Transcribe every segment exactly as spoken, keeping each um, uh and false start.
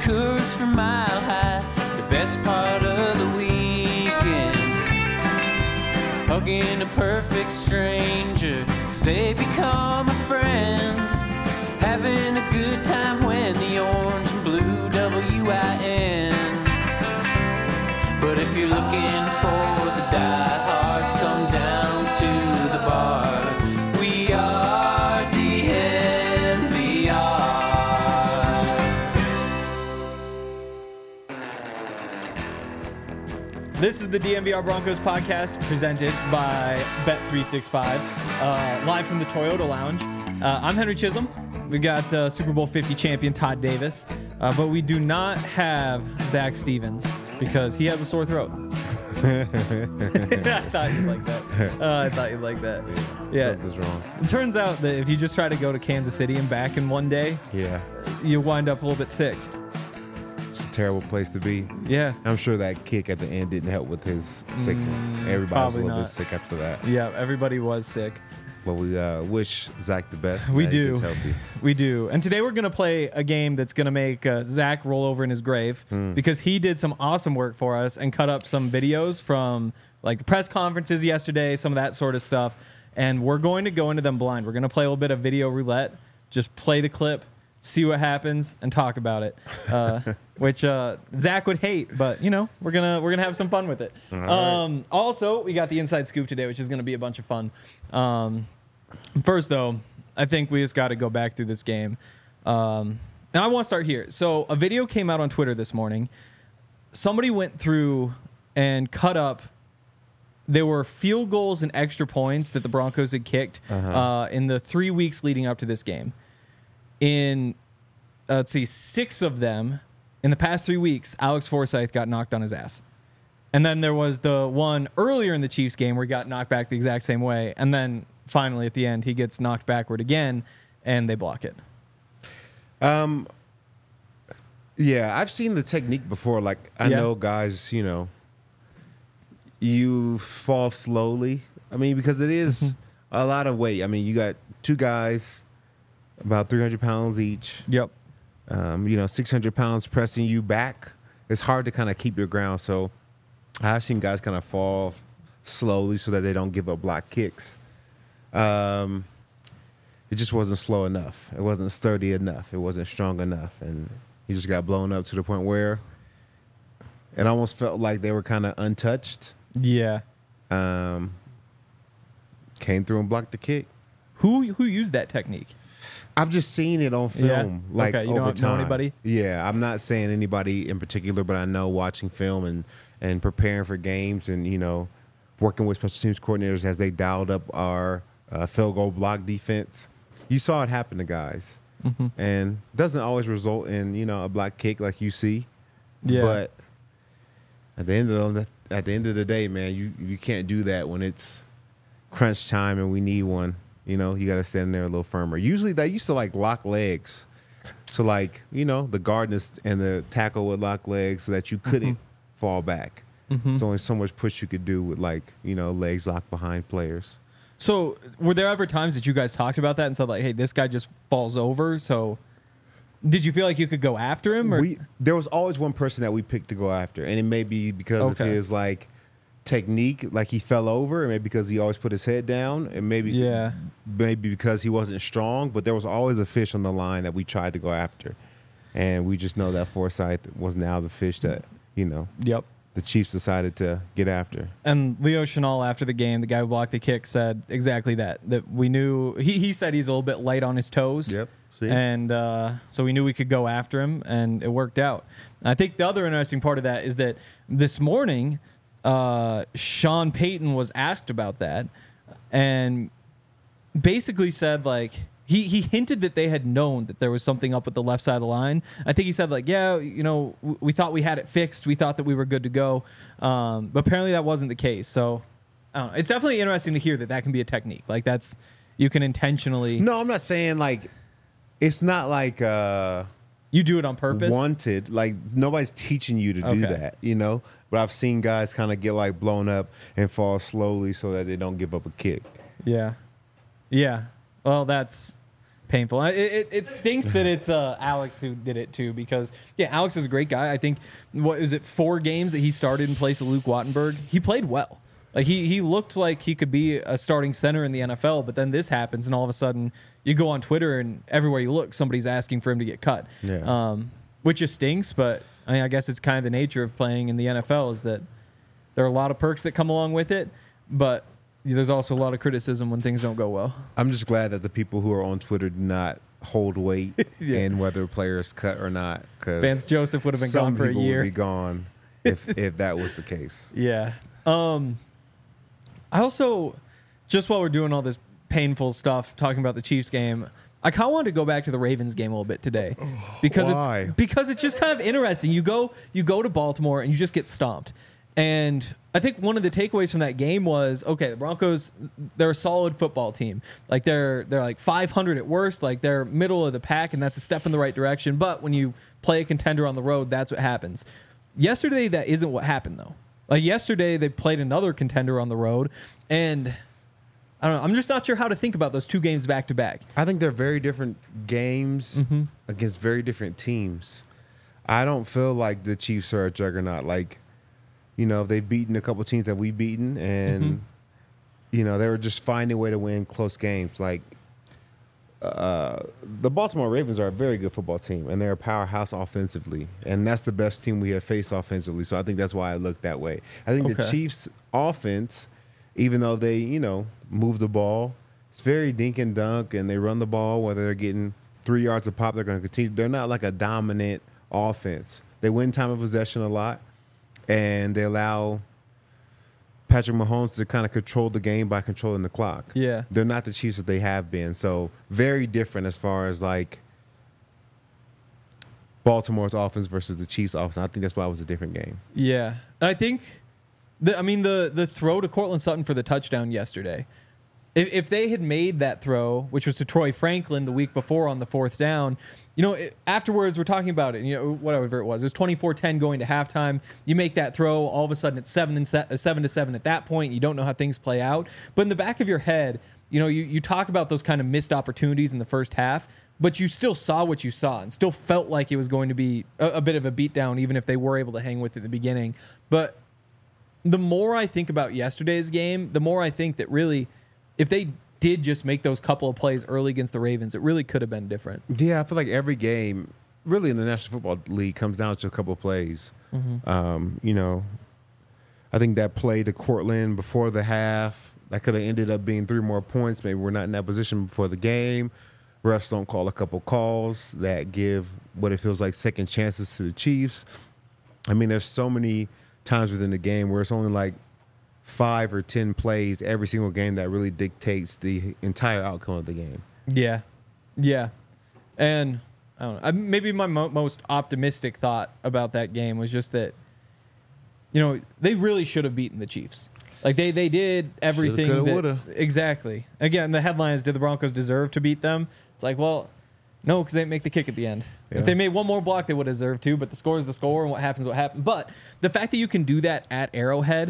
Coors from Mile High, the best part of the weekend. Hugging a perfect stranger as they become a friend. Having a good time when the orange and blue W I N. But if you're looking for the diehards, come down to the bar. We are D N V R. This is the D N V R Broncos podcast presented by Bet three sixty-five, uh, live from the Toyota Lounge. Uh, I'm Henry Chisholm. We got uh, Super Bowl fifty champion Todd Davis, uh, but we do not have Zach Stevens because he has a sore throat. I thought you'd like that. Uh, I thought you'd like that. Yeah. Something's wrong. It turns out that if you just try to go to Kansas City and back in one day, Yeah. you wind up a little bit sick. It's a terrible place to be. Yeah. I'm sure that kick at the end didn't help with his sickness. Mm, Everybody was a probably little not. bit sick after that. Yeah, everybody was sick. But we uh, wish Zach the best. We that he do. gets healthy. We do. And today we're going to play a game that's going to make uh, Zach roll over in his grave Mm. because he did some awesome work for us and cut up some videos from like the press conferences yesterday, some of that sort of stuff. And we're going to go into them blind. We're going to play a little bit of video roulette, just play the clip, see what happens, and talk about it, uh, which uh, Zach would hate. But, you know, we're going to we're gonna have some fun with it. All right. Um, also, we got the inside scoop today, which is going to be a bunch of fun. Um, First, though, I think we just got to go back through this game. Um, and I want to start here. So a video came out on Twitter this morning. Somebody went through and cut up. There were field goals and extra points that the Broncos had kicked Uh-huh. uh, in the three weeks leading up to this game. In, uh, let's see, six of them, in the past three weeks, Alex Forsythe got knocked on his ass. And then there was the one earlier in the Chiefs game where he got knocked back the exact same way. And then finally, at the end, he gets knocked backward again, and they block it. Um, yeah, I've seen the technique before. Like, I Yeah. know guys, you know, you fall slowly. I mean, because it is a lot of weight. I mean, you got two guys, about three hundred pounds each. Yep. Um, you know, six hundred pounds pressing you back. It's hard to kind of keep your ground. So I've seen guys kind of fall f- slowly so that they don't give up block kicks. Um, it just wasn't slow enough. It wasn't sturdy enough. It wasn't strong enough. And he just got blown up to the point where it almost felt like they were kind of untouched. Yeah. Um, came through and blocked the kick. Who who used that technique? I've just seen it on film, Yeah? like Okay, you over don't know time. anybody? Yeah, I'm not saying anybody in particular, but I know watching film and, and preparing for games and, you know, working with special teams coordinators as they dialed up our uh, field goal block defense. You saw it happen to guys. Mm-hmm. And doesn't always result in, you know, a block kick like you see. Yeah. But at the end of the, at the end of the day, man, you, you can't do that when it's crunch time and we need one. You know, you got to stand there a little firmer. Usually they used to like lock legs. So like, you know, the guard and the tackle would lock legs so that you couldn't mm-hmm. fall back. Mm-hmm. There's only so much push you could do with like, you know, legs locked behind players. So were there ever times that you guys talked about that and said like, hey, this guy just falls over? So did you feel like you could go after him? Or? We, there was always one person that we picked to go after. And it may be because Okay. of his like technique, like he fell over, and maybe because he always put his head down, and maybe Yeah. maybe because he wasn't strong, but there was always a fish on the line that we tried to go after. And we just know that Forsythe was now the fish that, you know, Yep. the Chiefs decided to get after. And Leo Chenal, after the game, the guy who blocked the kick, said exactly that. That we knew he, he said he's a little bit light on his toes. Yep. See? And uh, so we knew we could go after him, and it worked out. And I think the other interesting part of that is that this morning, uh, Sean Payton was asked about that, and basically said like he he hinted that they had known that there was something up with the left side of the line. I think he said like, yeah, you know, w- we thought we had it fixed. We thought that we were good to go, um, but apparently that wasn't the case. So I don't know. It's definitely interesting to hear that that can be a technique. Like that's you can intentionally No, I'm not saying like it's not like uh, you do it on purpose. wanted. Like nobody's teaching you to do Okay. that, you know. But I've seen guys kind of get like blown up and fall slowly so that they don't give up a kick. Yeah. Yeah. Well, that's painful. It, it, it stinks that it's uh, Alex who did it too, because yeah, Alex is a great guy. I think what is it four games that he started in place of Luke Wattenberg. He played well. Like he he looked like he could be a starting center in the N F L, but then this happens, and all of a sudden you go on Twitter and everywhere you look, somebody's asking for him to get cut. Yeah. Um, which just stinks, but I mean, I guess it's kind of the nature of playing in the N F L is that there are a lot of perks that come along with it, but there's also a lot of criticism when things don't go well. I'm just glad that the people who are on Twitter do not hold weight Yeah. in whether a player is cut or not. Because Vance Joseph would have been gone for a year. Would be gone if if that was the case. Yeah. Um, I also, just while we're doing all this painful stuff, talking about the Chiefs game, I kind of wanted to go back to the Ravens game a little bit today, because Why? it's because it's just kind of interesting. You go you go to Baltimore and you just get stomped, and I think one of the takeaways from that game was, okay, the Broncos, they're a solid football team. Like they're they're like five hundred at worst, like they're middle of the pack, and that's a step in the right direction. But when you play a contender on the road, that's what happens. Yesterday, that isn't what happened though. Like yesterday, they played another contender on the road, and I don't know. I'm just not sure how to think about those two games back to back. I think they're very different games Mm-hmm. against very different teams. I don't feel like the Chiefs are a juggernaut. Like, you know, they've beaten a couple teams that we've beaten, and Mm-hmm. you know they were just finding a way to win close games. Like uh, the Baltimore Ravens are a very good football team, and they're a powerhouse offensively, and that's the best team we have faced offensively. So I think that's why I look that way. I think the Okay. Chiefs' offense, even though they, you know, move the ball, it's very dink and dunk, and they run the ball. Whether they're getting three yards a pop, they're going to continue. They're not like a dominant offense. They win time of possession a lot, and they allow Patrick Mahomes to kind of control the game by controlling the clock. Yeah. They're not the Chiefs that they have been. So very different as far as like Baltimore's offense versus the Chiefs' offense. I think that's why it was a different game. Yeah, and I think, the, I mean, the the throw to Cortland Sutton for the touchdown yesterday, if, if they had made that throw, which was to Troy Franklin the week before on the fourth down, you know, it, afterwards we're talking about it, you know, whatever it was, it was twenty-four ten going to halftime. You make that throw, all of a sudden it's seven and se- seven to seven at that point. You don't know how things play out, but in the back of your head, you know, you, you talk about those kind of missed opportunities in the first half, but you still saw what you saw and still felt like it was going to be a, a bit of a beatdown, even if they were able to hang with it at the beginning. But the more I think about yesterday's game, the more I think that really, if they did just make those couple of plays early against the Ravens, it really could have been different. Yeah, I feel like every game, really in the National Football League, comes down to a couple of plays. Mm-hmm. Um, you know, I think that play to Cortland before the half, that could have ended up being three more points. Maybe we're not in that position before the game. Refs don't call a couple calls that give what it feels like second chances to the Chiefs. I mean, there's so many times within the game where it's only like five or ten plays every single game that really dictates the entire outcome of the game. Yeah, yeah, and I don't know. I, maybe my mo- most optimistic thought about that game was just that, you know, they really should have beaten the Chiefs. Like they they did everything. coulda, that- woulda. Exactly. Again, the headline is, did the Broncos deserve to beat them? It's like, well, no, because they didn't make the kick at the end. Yeah. If they made one more block, they would have deserved to. But the score is the score, and what happens, what happened. But the fact that you can do that at Arrowhead,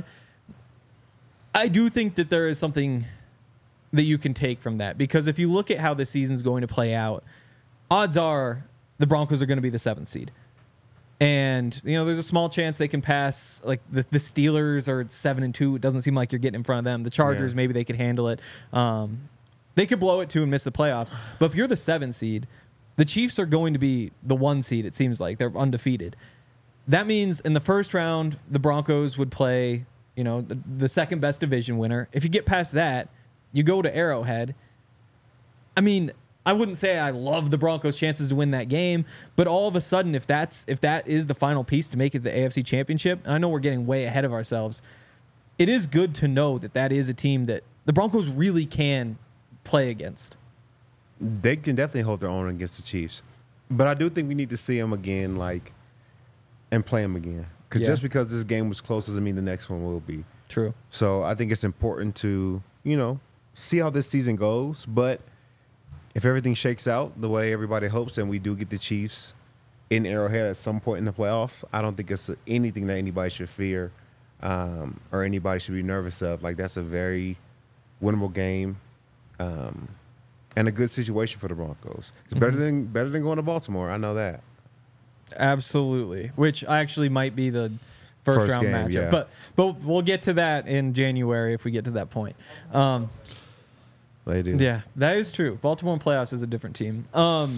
I do think that there is something that you can take from that, because if you look at how the season's going to play out, odds are the Broncos are going to be the seventh seed. And, you know, there's a small chance they can pass, like the, the Steelers are at seven and two. It doesn't seem like you're getting in front of them. The Chargers, Yeah. maybe they could handle it. Um, they could blow it too and miss the playoffs. But if you're the seven seed, the Chiefs are going to be the one seed, it seems like. They're undefeated. That means in the first round, the Broncos would play, you know, the, the second best division winner. If you get past that, you go to Arrowhead. I mean, I wouldn't say I love the Broncos' chances to win that game, but all of a sudden, if that's if that is the final piece to make it the A F C Championship, and I know we're getting way ahead of ourselves, it is good to know that that is a team that the Broncos really can play against. They can definitely hold their own against the Chiefs, but I do think we need to see them again, like, and play them again. Because Yeah. just because this game was close doesn't mean the next one will be. True. So I think it's important to, you know, see how this season goes. But if everything shakes out the way everybody hopes, and we do get the Chiefs in Arrowhead at some point in the playoffs, I don't think it's anything that anybody should fear um, or anybody should be nervous of. Like, that's a very winnable game. Um, and a good situation for the Broncos. It's better than better than going to Baltimore. I know that. Absolutely. Which actually might be the first, First round game, matchup. yeah. But but we'll get to that in January if we get to that point. Um, They do. yeah, that is true. Baltimore in playoffs is a different team. Um,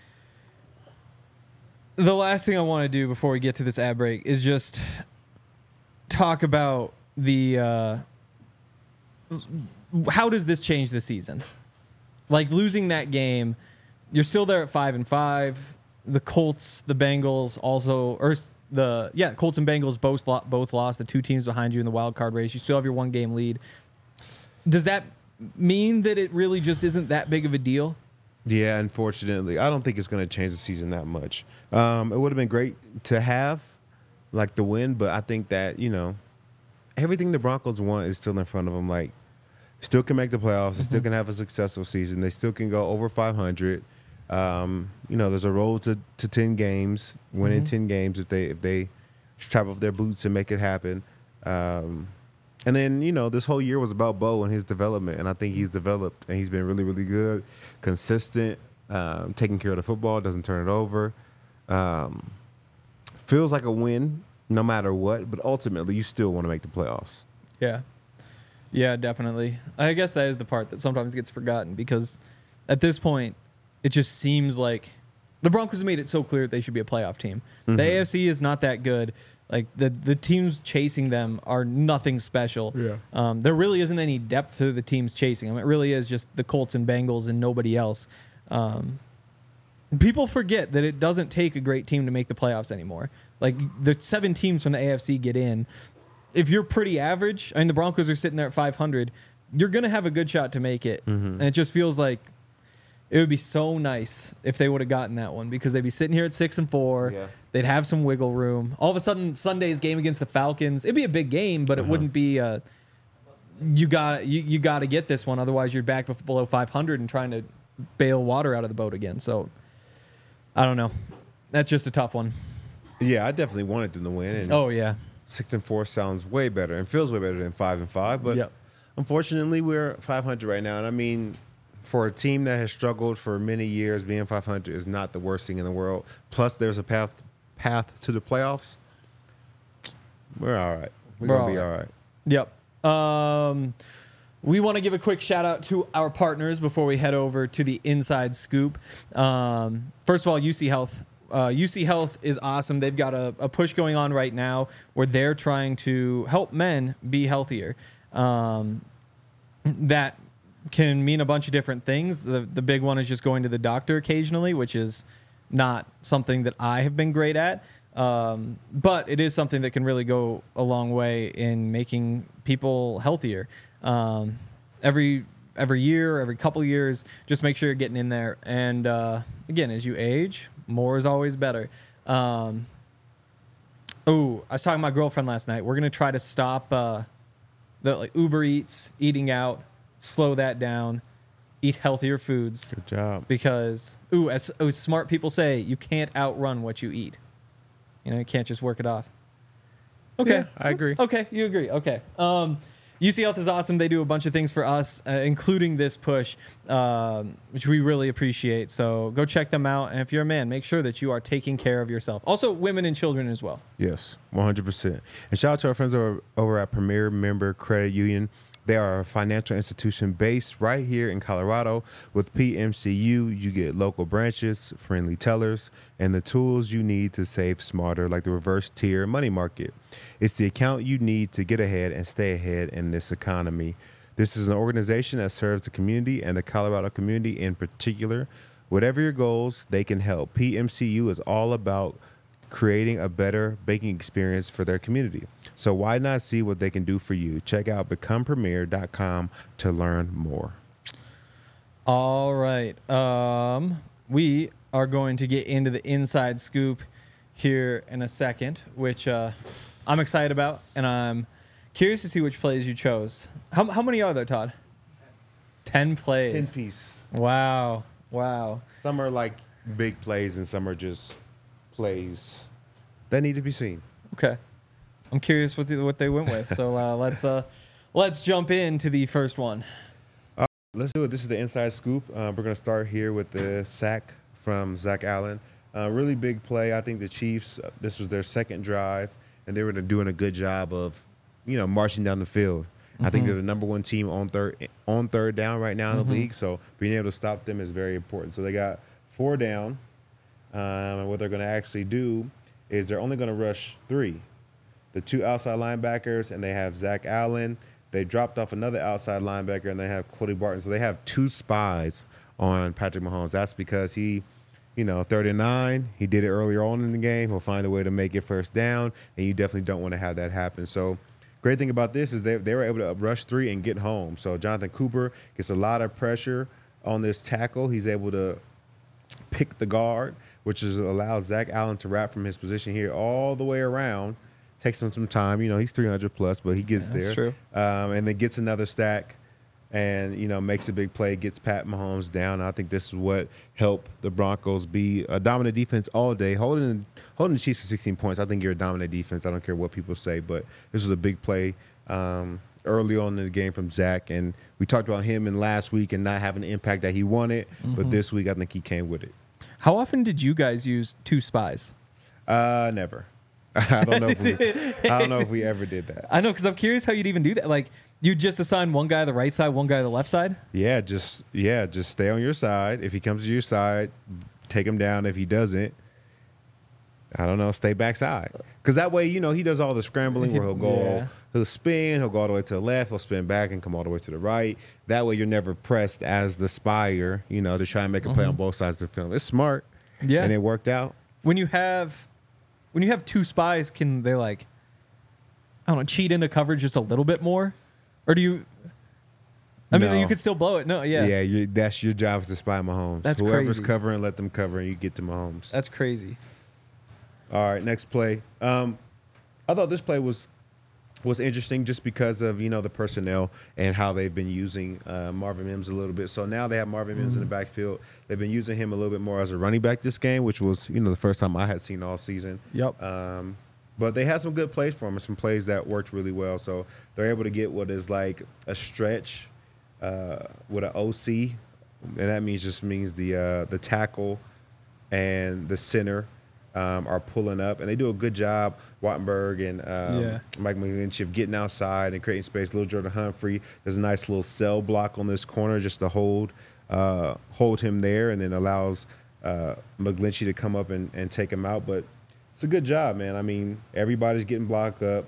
the last thing I want to do before we get to this ad break is just talk about the uh, how does this change the season? Like losing that game, you're still there at five and five. The Colts, the Bengals, also, or the yeah, Colts and Bengals both lo- both lost. The two teams behind you in the wild card race. You still have your one game lead. Does that mean that it really just isn't that big of a deal? Yeah, unfortunately, I don't think it's going to change the season that much. Um, it would have been great to have, like, the win, but I think that, you know, everything the Broncos want is still in front of them. Like, still can make the playoffs. They still can have a successful season. They still can go over five hundred. Um, you know, there's a road to, to ten games, winning ten games if they if they strap up their boots and make it happen. Um, and then, you know, this whole year was about Bo and his development, and I think he's developed, and he's been really, really good, consistent, um, taking care of the football, doesn't turn it over. Um, feels like a win no matter what, but ultimately you still want to make the playoffs. Yeah. Yeah, definitely. I guess that is the part that sometimes gets forgotten because at this point, it just seems like the Broncos have made it so clear that they should be a playoff team. Mm-hmm. The A F C is not that good. Like the the teams chasing them are nothing special. Yeah. Um, there really isn't any depth to the teams chasing them. It really is just the Colts and Bengals and nobody else. Um, people forget that it doesn't take a great team to make the playoffs anymore. Like the seven teams from the A F C get in. If you're pretty average, I mean, the Broncos are sitting there at five hundred, you're going to have a good shot to make it. Mm-hmm. And it just feels like it would be so nice if they would have gotten that one because they'd be sitting here at six and four. Yeah. They'd have some wiggle room. All of a sudden, Sunday's game against the Falcons, it'd be a big game, but it uh-huh. wouldn't be a, you got you, you got to get this one. Otherwise, you're back below five hundred and trying to bail water out of the boat again. So, I don't know. That's just a tough one. Yeah, I definitely wanted them to win. And oh, yeah. Six and four sounds way better and feels way better than five and five. But yep. unfortunately, we're five hundred right now. And I mean, for a team that has struggled for many years, being five hundred is not the worst thing in the world. Plus, there's a path path to the playoffs. We're all right. We're, we're gonna be all right. Yep. Um, we want to give a quick shout out to our partners before we head over to the Inside Scoop. Um, first of all, U C Health. Uh, U C Health is awesome. They've got a, a push going on right now where they're trying to help men be healthier. Um, that can mean a bunch of different things. The the big one is just going to the doctor occasionally, which is not something that I have been great at. Um, but it is something that can really go a long way in making people healthier. Um, every every year, every couple years, just make sure you're getting in there. And uh, again, as you age, more is always better. Um, oh, I was talking to my girlfriend last night. We're gonna try to stop uh, the like Uber Eats, eating out, slow that down, eat healthier foods. Good job. Because ooh, as, as smart people say, you can't outrun what you eat. You know, you can't just work it off. Okay, yeah, I agree. Okay, you agree. Okay. Um, U C Health is awesome. They do a bunch of things for us, uh, including this push, um, which we really appreciate. So go check them out. And if you're a man, make sure that you are taking care of yourself. Also, women and children as well. Yes, one hundred percent. And shout out to our friends over, over at Premier Member Credit Union. They are a financial institution based right here in Colorado. With P M C U, you get local branches, friendly tellers, and the tools you need to save smarter, like the reverse tier money market. It's the account you need to get ahead and stay ahead in this economy. This is an organization that serves the community and the Colorado community in particular. Whatever your goals, they can help. P M C U is all about creating a better banking experience for their community. So why not see what they can do for you? Check out become premier dot com to learn more. All right. Um, we are going to get into the Inside Scoop here in a second, which uh, I'm excited about, and I'm curious to see which plays you chose. How, how many are there, Todd? Ten plays. Ten piece. Wow. Wow. Some are like big plays and some are just plays that need to be seen. Okay. I'm curious what the, what they went with. So uh, let's uh, let's jump into the first one. Uh, let's do it. This is the inside scoop. Uh, we're going to start here with the sack from Zach Allen. Uh, really big play. I think the Chiefs, uh, this was their second drive, and they were doing a good job of, you know, marching down the field. Mm-hmm. I think they're the number one team on third on third down right now in mm-hmm. the league, so being able to stop them is very important. So they got four down, um, and what they're going to actually do is they're only going to rush three. The two outside linebackers, and they have Zach Allen. They dropped off another outside linebacker, and they have Cody Barton. So they have two spies on Patrick Mahomes. That's because he, you know, third and nine, he did it earlier on in the game. He'll find a way to make it first down, and you definitely don't want to have that happen. So great thing about this is they, they were able to rush three and get home. So Jonathan Cooper gets a lot of pressure on this tackle. He's able to pick the guard, which is allows Zach Allen to wrap from his position here all the way around. Takes him some time. You know, he's three hundred plus, but he gets yeah, that's there. True. Um, and then gets another stack and, you know, makes a big play, gets Pat Mahomes down. And I think this is what helped the Broncos be a dominant defense all day. Holding holding the Chiefs to sixteen points, I think you're a dominant defense. I don't care what people say, but this was a big play um, early on in the game from Zach. And we talked about him in last week and not having the impact that he wanted. Mm-hmm. But this week, I think he came with it. How often did you guys use two spies? Uh, never. I don't know. If we, I don't know if we ever did that. I know, because I'm curious how you'd even do that. Like, you just assign one guy the right side, one guy the left side. Yeah, just yeah, just stay on your side. If he comes to your side, take him down. If he doesn't, I don't know, stay backside. Because that way, you know, he does all the scrambling where he'll go, yeah. he'll spin, he'll go all the way to the left, he'll spin back and come all the way to the right. That way, you're never pressed as the spire, you know, to try and make a play mm-hmm. on both sides of the field. It's smart. Yeah, and it worked out. When you have. When you have two spies, can they, like, I don't know, cheat into coverage just a little bit more? Or do you... I no. mean, you could still blow it. No, yeah. Yeah, you, that's your job is to spy Mahomes. That's Whoever's crazy. covering, let them cover, and you get to Mahomes. That's crazy. All right, next play. Um, I thought this play was was interesting just because of, you know, the personnel and how they've been using uh, Marvin Mims a little bit. So now they have Marvin Mims mm-hmm. in the backfield. They've been using him a little bit more as a running back this game, which was, you know, the first time I had seen all season. Yep. Um, but they had some good plays for him and some plays that worked really well. So they're able to get what is like a stretch uh, with an O C, and that means just means the uh, the tackle and the center um, are pulling up, and they do a good job. Wattenberg and um, yeah. Mike McGlinchey of getting outside and creating space. Little Jordan Humphrey, there's a nice little cell block on this corner just to hold uh, hold him there, and then allows uh, McGlinchey to come up and, and take him out. But it's a good job, man. I mean, everybody's getting blocked up.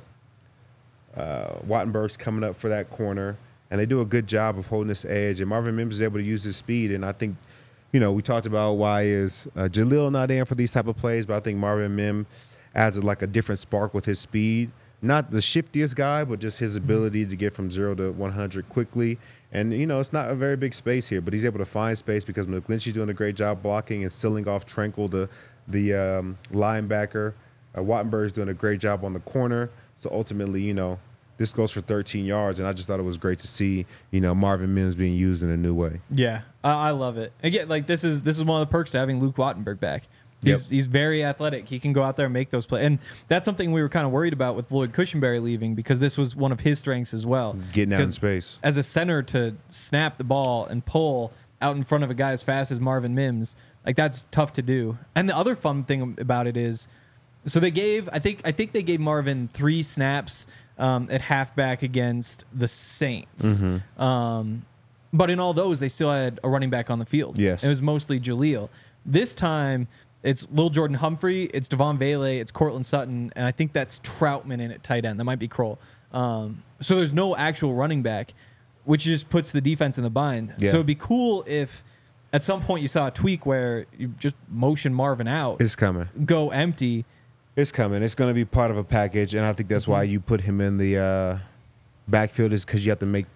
Uh, Wattenberg's coming up for that corner, and they do a good job of holding this edge. And Marvin Mims is able to use his speed, and I think, you know, we talked about why is uh, Jaleel not in for these type of plays, but I think Marvin Mims adds a, like a different spark with his speed. Not the shiftiest guy, but just his ability to get from zero to one hundred quickly. And, you know, it's not a very big space here, but he's able to find space because McGlinchey's doing a great job blocking and sealing off Tranquil, the, the um, linebacker. Uh, Wattenberg's doing a great job on the corner. So ultimately, you know, this goes for thirteen yards, and I just thought it was great to see, you know, Marvin Mims being used in a new way. Yeah, I, I love it. Again, like this is this is one of the perks to having Luke Wattenberg back. He's, yep. he's very athletic. He can go out there and make those plays. And that's something we were kind of worried about with Lloyd Cushenberry leaving, because this was one of his strengths as well. Getting out in space. As a center, to snap the ball and pull out in front of a guy as fast as Marvin Mims, like that's tough to do. And the other fun thing about it is, so they gave, I think I think they gave Marvin three snaps um, at halfback against the Saints. Mm-hmm. Um, but in all those, they still had a running back on the field. Yes. It was mostly Jaleel. This time, it's Lil Jordan Humphrey, it's Devon Vele, it's Cortland Sutton, and I think that's Troutman in at tight end. That might be Kroll. Um, so there's no actual running back, which just puts the defense in the bind. Yeah. So it'd be cool if at some point you saw a tweak where you just motion Marvin out. It's coming. Go empty. It's coming. It's going to be part of a package, and I think that's mm-hmm. why you put him in the uh, backfield, is because you have to make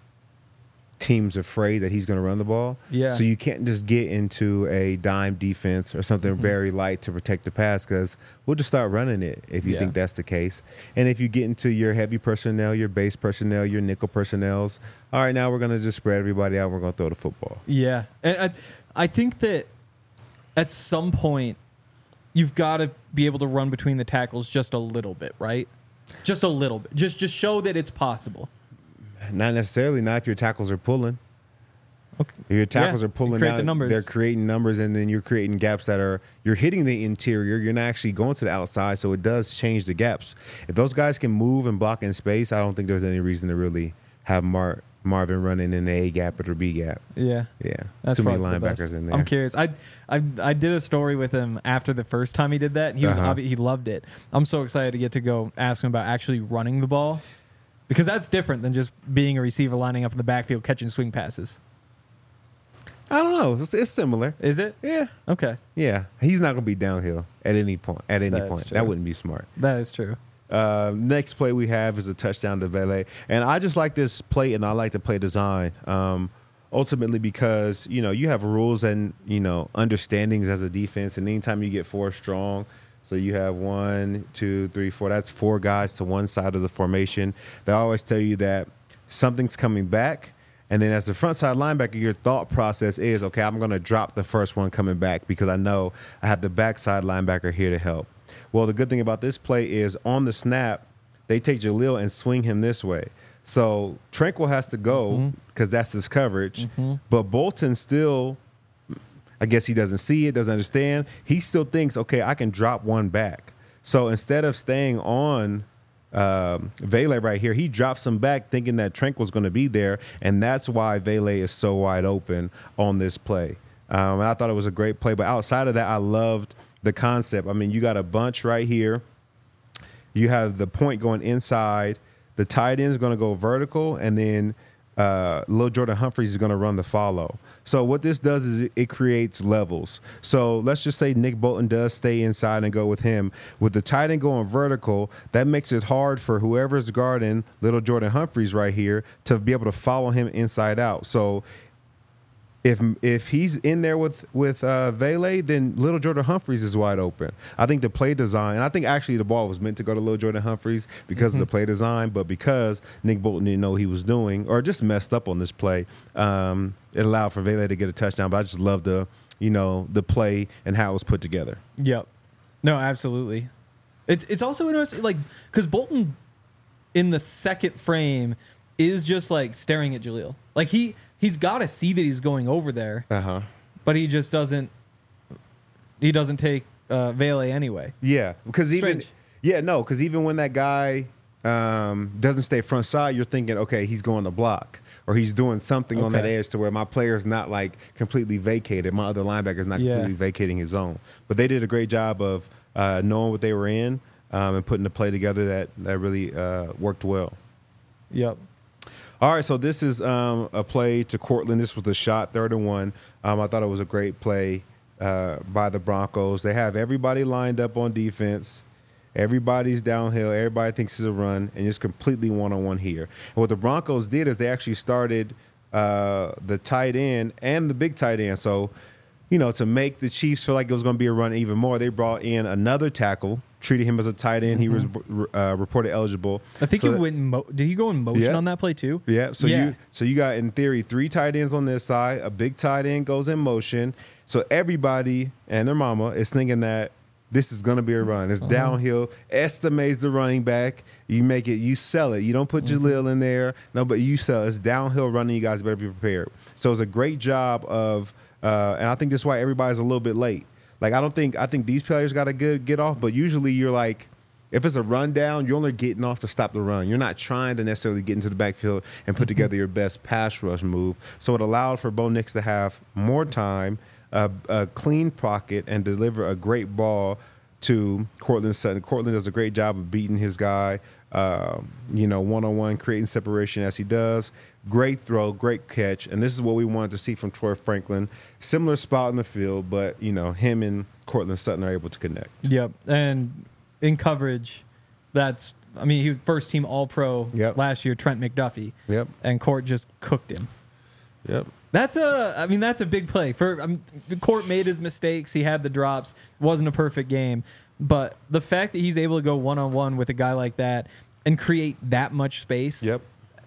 teams afraid that he's going to run the ball. Yeah. So you can't just get into a dime defense or something mm-hmm. very light to protect the pass, because we'll just start running it if you yeah. think that's the case. And if you get into your heavy personnel, your base personnel, your nickel personnels, all right, now we're going to just spread everybody out. We're going to throw the football. Yeah. And I, I think that at some point you've got to be able to run between the tackles just a little bit, right? Just a little bit. Just just show that it's possible. Not necessarily. Not if your tackles are pulling. Okay. Your tackles Yeah, are pulling create out. the numbers. They're creating numbers, and then you're creating gaps that are you're hitting the interior. You're not actually going to the outside, so it does change the gaps. If those guys can move and block in space, I don't think there's any reason to really have Mar- Marvin running in the A gap or the B gap. Yeah. Yeah, That's too many probably the best. linebackers in there. I'm curious. I, I I did a story with him after the first time he did that. He was Uh-huh. obvi- he loved it. I'm so excited to get to go ask him about actually running the ball, because that's different than just being a receiver lining up in the backfield catching swing passes. I don't know. It's, it's similar. Is it? Yeah, Okay, yeah. He's not going to be downhill at any point. At any That's point, true. that wouldn't be smart. that is true. Uh, next play we have is a touchdown to Vele. And I just like this play, and I like the play design. Um, ultimately because, you know, you have rules and, you know, understandings as a defense. And anytime you get four strong, so you have one, two, three, four, that's four guys to one side of the formation. They always tell you that something's coming back. And then as the front side linebacker, your thought process is, okay, I'm going to drop the first one coming back because I know I have the backside linebacker here to help. Well, the good thing about this play is on the snap, they take Jaleel and swing him this way. So Tranquil has to go because that's his coverage. Mm-hmm. But Bolton still, I guess he doesn't see it, doesn't understand. He still thinks, okay, I can drop one back. So instead of staying on um, Vele right here, he drops him back thinking that Tranquil's going to be there. And that's why Vele is so wide open on this play. Um, and I thought it was a great play. But outside of that, I loved the concept. I mean, you got a bunch right here. You have the point going inside. The tight end is going to go vertical, and then uh, Lil Jordan Humphreys is going to run the follow. So what this does is it, it creates levels. So let's just say Nick Bolton does stay inside and go with him. With the tight end going vertical, that makes it hard for whoever's guarding Little Jordan Humphreys right here to be able to follow him inside out. So If if he's in there with with uh, Vele, then Little Jordan Humphreys is wide open. I think the play design, and I think actually the ball was meant to go to Little Jordan Humphreys because mm-hmm. of the play design, but because Nick Bolton didn't know what he was doing or just messed up on this play, um, it allowed for Vele to get a touchdown. But I just love the you know the play and how it was put together. Yep. No, absolutely. It's it's also interesting, like, because Bolton in the second frame is just like staring at Jaleel, like he. He's got to see that he's going over there, Uh-huh. but he just doesn't. He doesn't take uh, Vele anyway. Yeah, because even Strange. yeah, no, because even when that guy um, doesn't stay front side, you're thinking, okay, he's going to block or he's doing something on that Okay. edge to where my player's not like completely vacated. My other linebacker's not Yeah. completely vacating his zone. But they did a great job of uh, knowing what they were in um, and putting the play together that that really uh, worked well. Yep. All right, so this is um, a play to Cortland. This was the shot, third and one. Um, I thought it was a great play uh, by the Broncos. They have everybody lined up on defense. Everybody's downhill. Everybody thinks it's a run, and it's completely one-on-one here. And what the Broncos did is they actually started uh, the tight end and the big tight end. So, you know, to make the Chiefs feel like it was going to be a run even more, they brought in another tackle, treated him as a tight end. He was uh, reported eligible. I think So he that- went. In mo- did he go in motion Yeah. on that play too? Yeah. So Yeah. you so you got in theory three tight ends on this side. A big tight end goes in motion. So everybody and their mama is thinking that this is going to be a run. It's Uh-huh. downhill. Estimates the running back. You make it. You sell it. You don't put Mm-hmm. Jaleel in there. No, but you sell. It's downhill running. You guys better be prepared. So it's a great job of, uh, and I think that's why everybody's a little bit late. Like I don't think I think these players got to good get off. But usually you're like. If it's a rundown, you're only getting off to stop the run. You're not trying to necessarily get into the backfield and put together your best pass rush move. So it allowed for Bo Nix to have more time, a, a clean pocket, and deliver a great ball to Cortland Sutton. Cortland does a great job of beating his guy, uh, you know, one-on-one, creating separation as he does. Great throw, great catch. And this is what we wanted to see from Troy Franklin. Similar spot in the field, but, you know, him and Cortland Sutton are able to connect. Yep. And in coverage, that's. I mean, he was first team All Pro Yep. last year. Trent McDuffie. Yep. And Court just cooked him. Yep. That's a. I mean, that's a big play. For I mean, the Court made his mistakes. He had the drops. Wasn't a perfect game, but the fact that he's able to go one on one with a guy like that and create that much space. Yep.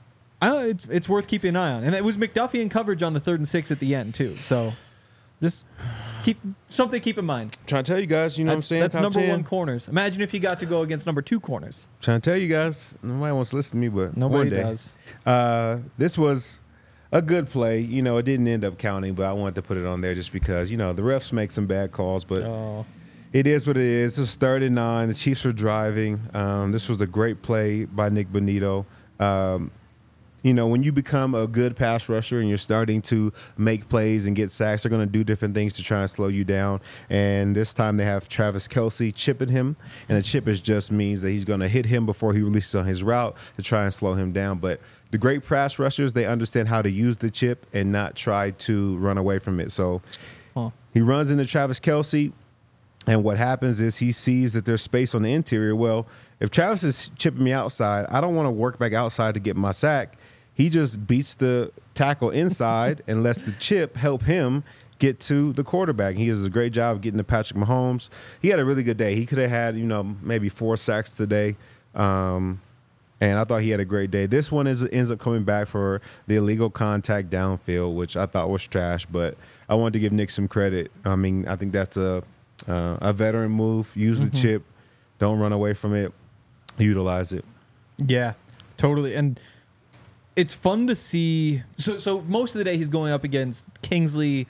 I, it's it's worth keeping an eye on. And it was McDuffie in coverage on the third and six at the end too. So, just keep something to keep in mind. Trying to tell you guys, you know That's, what I'm saying? that's Top number ten. one corners. Imagine if you got to go against number two corners. Trying to tell you guys, nobody wants to listen to me, but Nobody one day. does. Uh, this was a good play. You know, it didn't end up counting, but I wanted to put it on there just because, you know, the refs make some bad calls, but Oh. it is what it is. It's third and nine. The Chiefs are driving. Um, this was a great play by Nick Bonito. Um, you know, when you become a good pass rusher and you're starting to make plays and get sacks, they're going to do different things to try and slow you down. And this time they have Travis Kelce chipping him. And the chip is just means that he's going to hit him before he releases on his route to try and slow him down. But the great pass rushers, they understand how to use the chip and not try to run away from it. So Huh. he runs into Travis Kelce. And what happens is he sees that there's space on the interior. Well, if Travis is chipping me outside, I don't want to work back outside to get my sack. He just beats the tackle inside and lets the chip help him get to the quarterback. He does a great job of getting to Patrick Mahomes. He had a really good day. He could have had, you know, maybe four sacks today. Um, and I thought he had a great day. This one is ends up coming back for the illegal contact downfield, which I thought was trash. But I wanted to give Nick some credit. I mean, I think that's a uh, a veteran move. Use Mm-hmm. the chip. Don't run away from it. Utilize it. Yeah, totally. And it's fun to see. So, so most of the day he's going up against Kingsley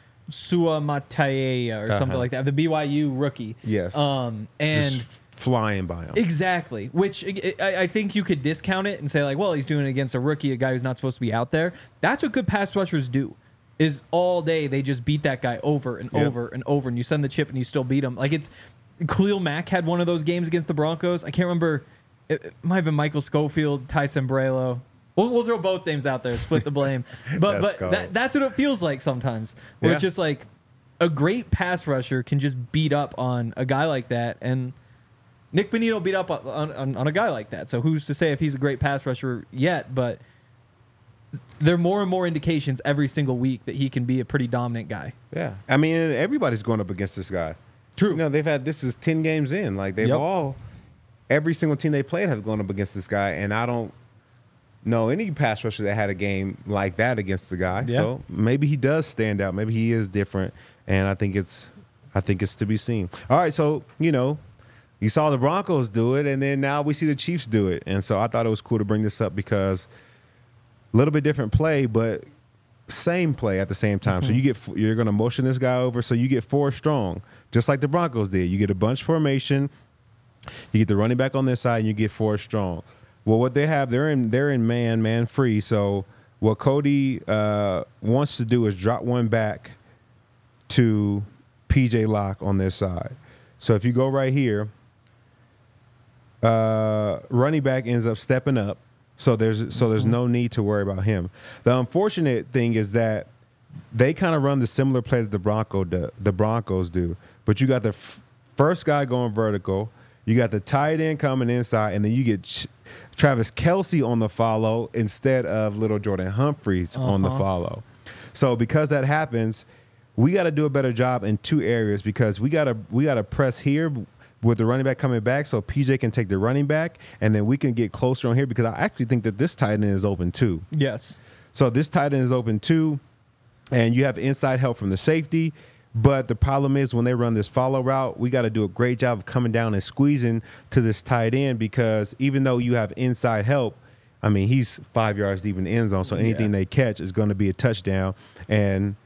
Suamataia or something Uh-huh. like that, the B Y U rookie. Yes. Um, and Just flying by him. exactly, which I, I think you could discount it and say like, well, he's doing it against a rookie, a guy who's not supposed to be out there. That's what good pass rushers do. Is all day they just beat that guy over and Yep. over and over, and you send the chip and you still beat him. Like it's Khalil Mack had one of those games against the Broncos. I can't remember. It, it might have been Michael Schofield, Ty Sembrello. We'll, we'll throw both names out there, split the blame. But That's but cold. that, that's what it feels like sometimes. Where Yeah. it's just like a great pass rusher can just beat up on a guy like that, and Nick Bonito beat up on, on, on a guy like that. So who's to say if he's a great pass rusher yet? But there are more and more indications every single week that he can be a pretty dominant guy. Yeah. I mean, everybody's going up against this guy. True. You know, they've had, this is ten games in. Like, they've Yep. all, every single team they played have gone up against this guy. And I don't know any pass rusher that had a game like that against the guy. Yeah. So maybe he does stand out. Maybe he is different. And I think it's, I think it's to be seen. All right. So, you know, you saw the Broncos do it, and then now we see the Chiefs do it. And so I thought it was cool to bring this up because a little bit different play, but same play at the same time. Mm-hmm. So you get you're going to motion this guy over, so you get four strong, just like the Broncos did. You get a bunch formation, you get the running back on this side, and you get four strong. Well, what they have, they're in they're in man man free. So what Cody uh, wants to do is drop one back to P J Locke on this side. So if you go right here, uh, running back ends up stepping up. So there's so there's no need to worry about him. The unfortunate thing is that they kind of run the similar play that the Bronco do, the Broncos do. But you got the f- first guy going vertical, you got the tight end coming inside, and then you get Ch- Travis Kelce on the follow instead of little Jordan Humphreys on the Uh-huh. follow. So because that happens, we got to do a better job in two areas because we got to we got to press here with the running back coming back so P J can take the running back, and then we can get closer on here because I actually think that this tight end is open too. Yes. So this tight end is open too, and you have inside help from the safety. But the problem is when they run this follow route, we got to do a great job of coming down and squeezing to this tight end because even though you have inside help, I mean, he's five yards deep in the end zone, so anything Yeah. they catch is going to be a touchdown. And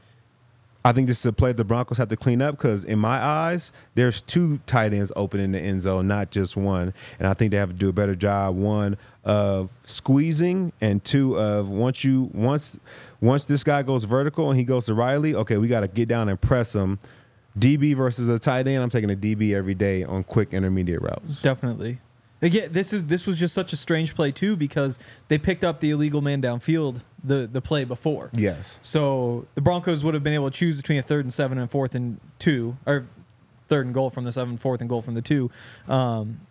I think this is a play the Broncos have to clean up because, in my eyes, there's two tight ends open in the end zone, not just one. And I think they have to do a better job, one, of squeezing, and two, of once you once once this guy goes vertical and he goes to Riley, okay, we got to get down and press him. D B versus a tight end, I'm taking a D B every day on quick intermediate routes. Definitely. Again, this is this was just such a strange play too because they picked up the illegal man downfield the the play before. Yes. So the Broncos would have been able to choose between a third and seven and fourth and two, or third and goal from the seven, fourth and goal from the two. Um,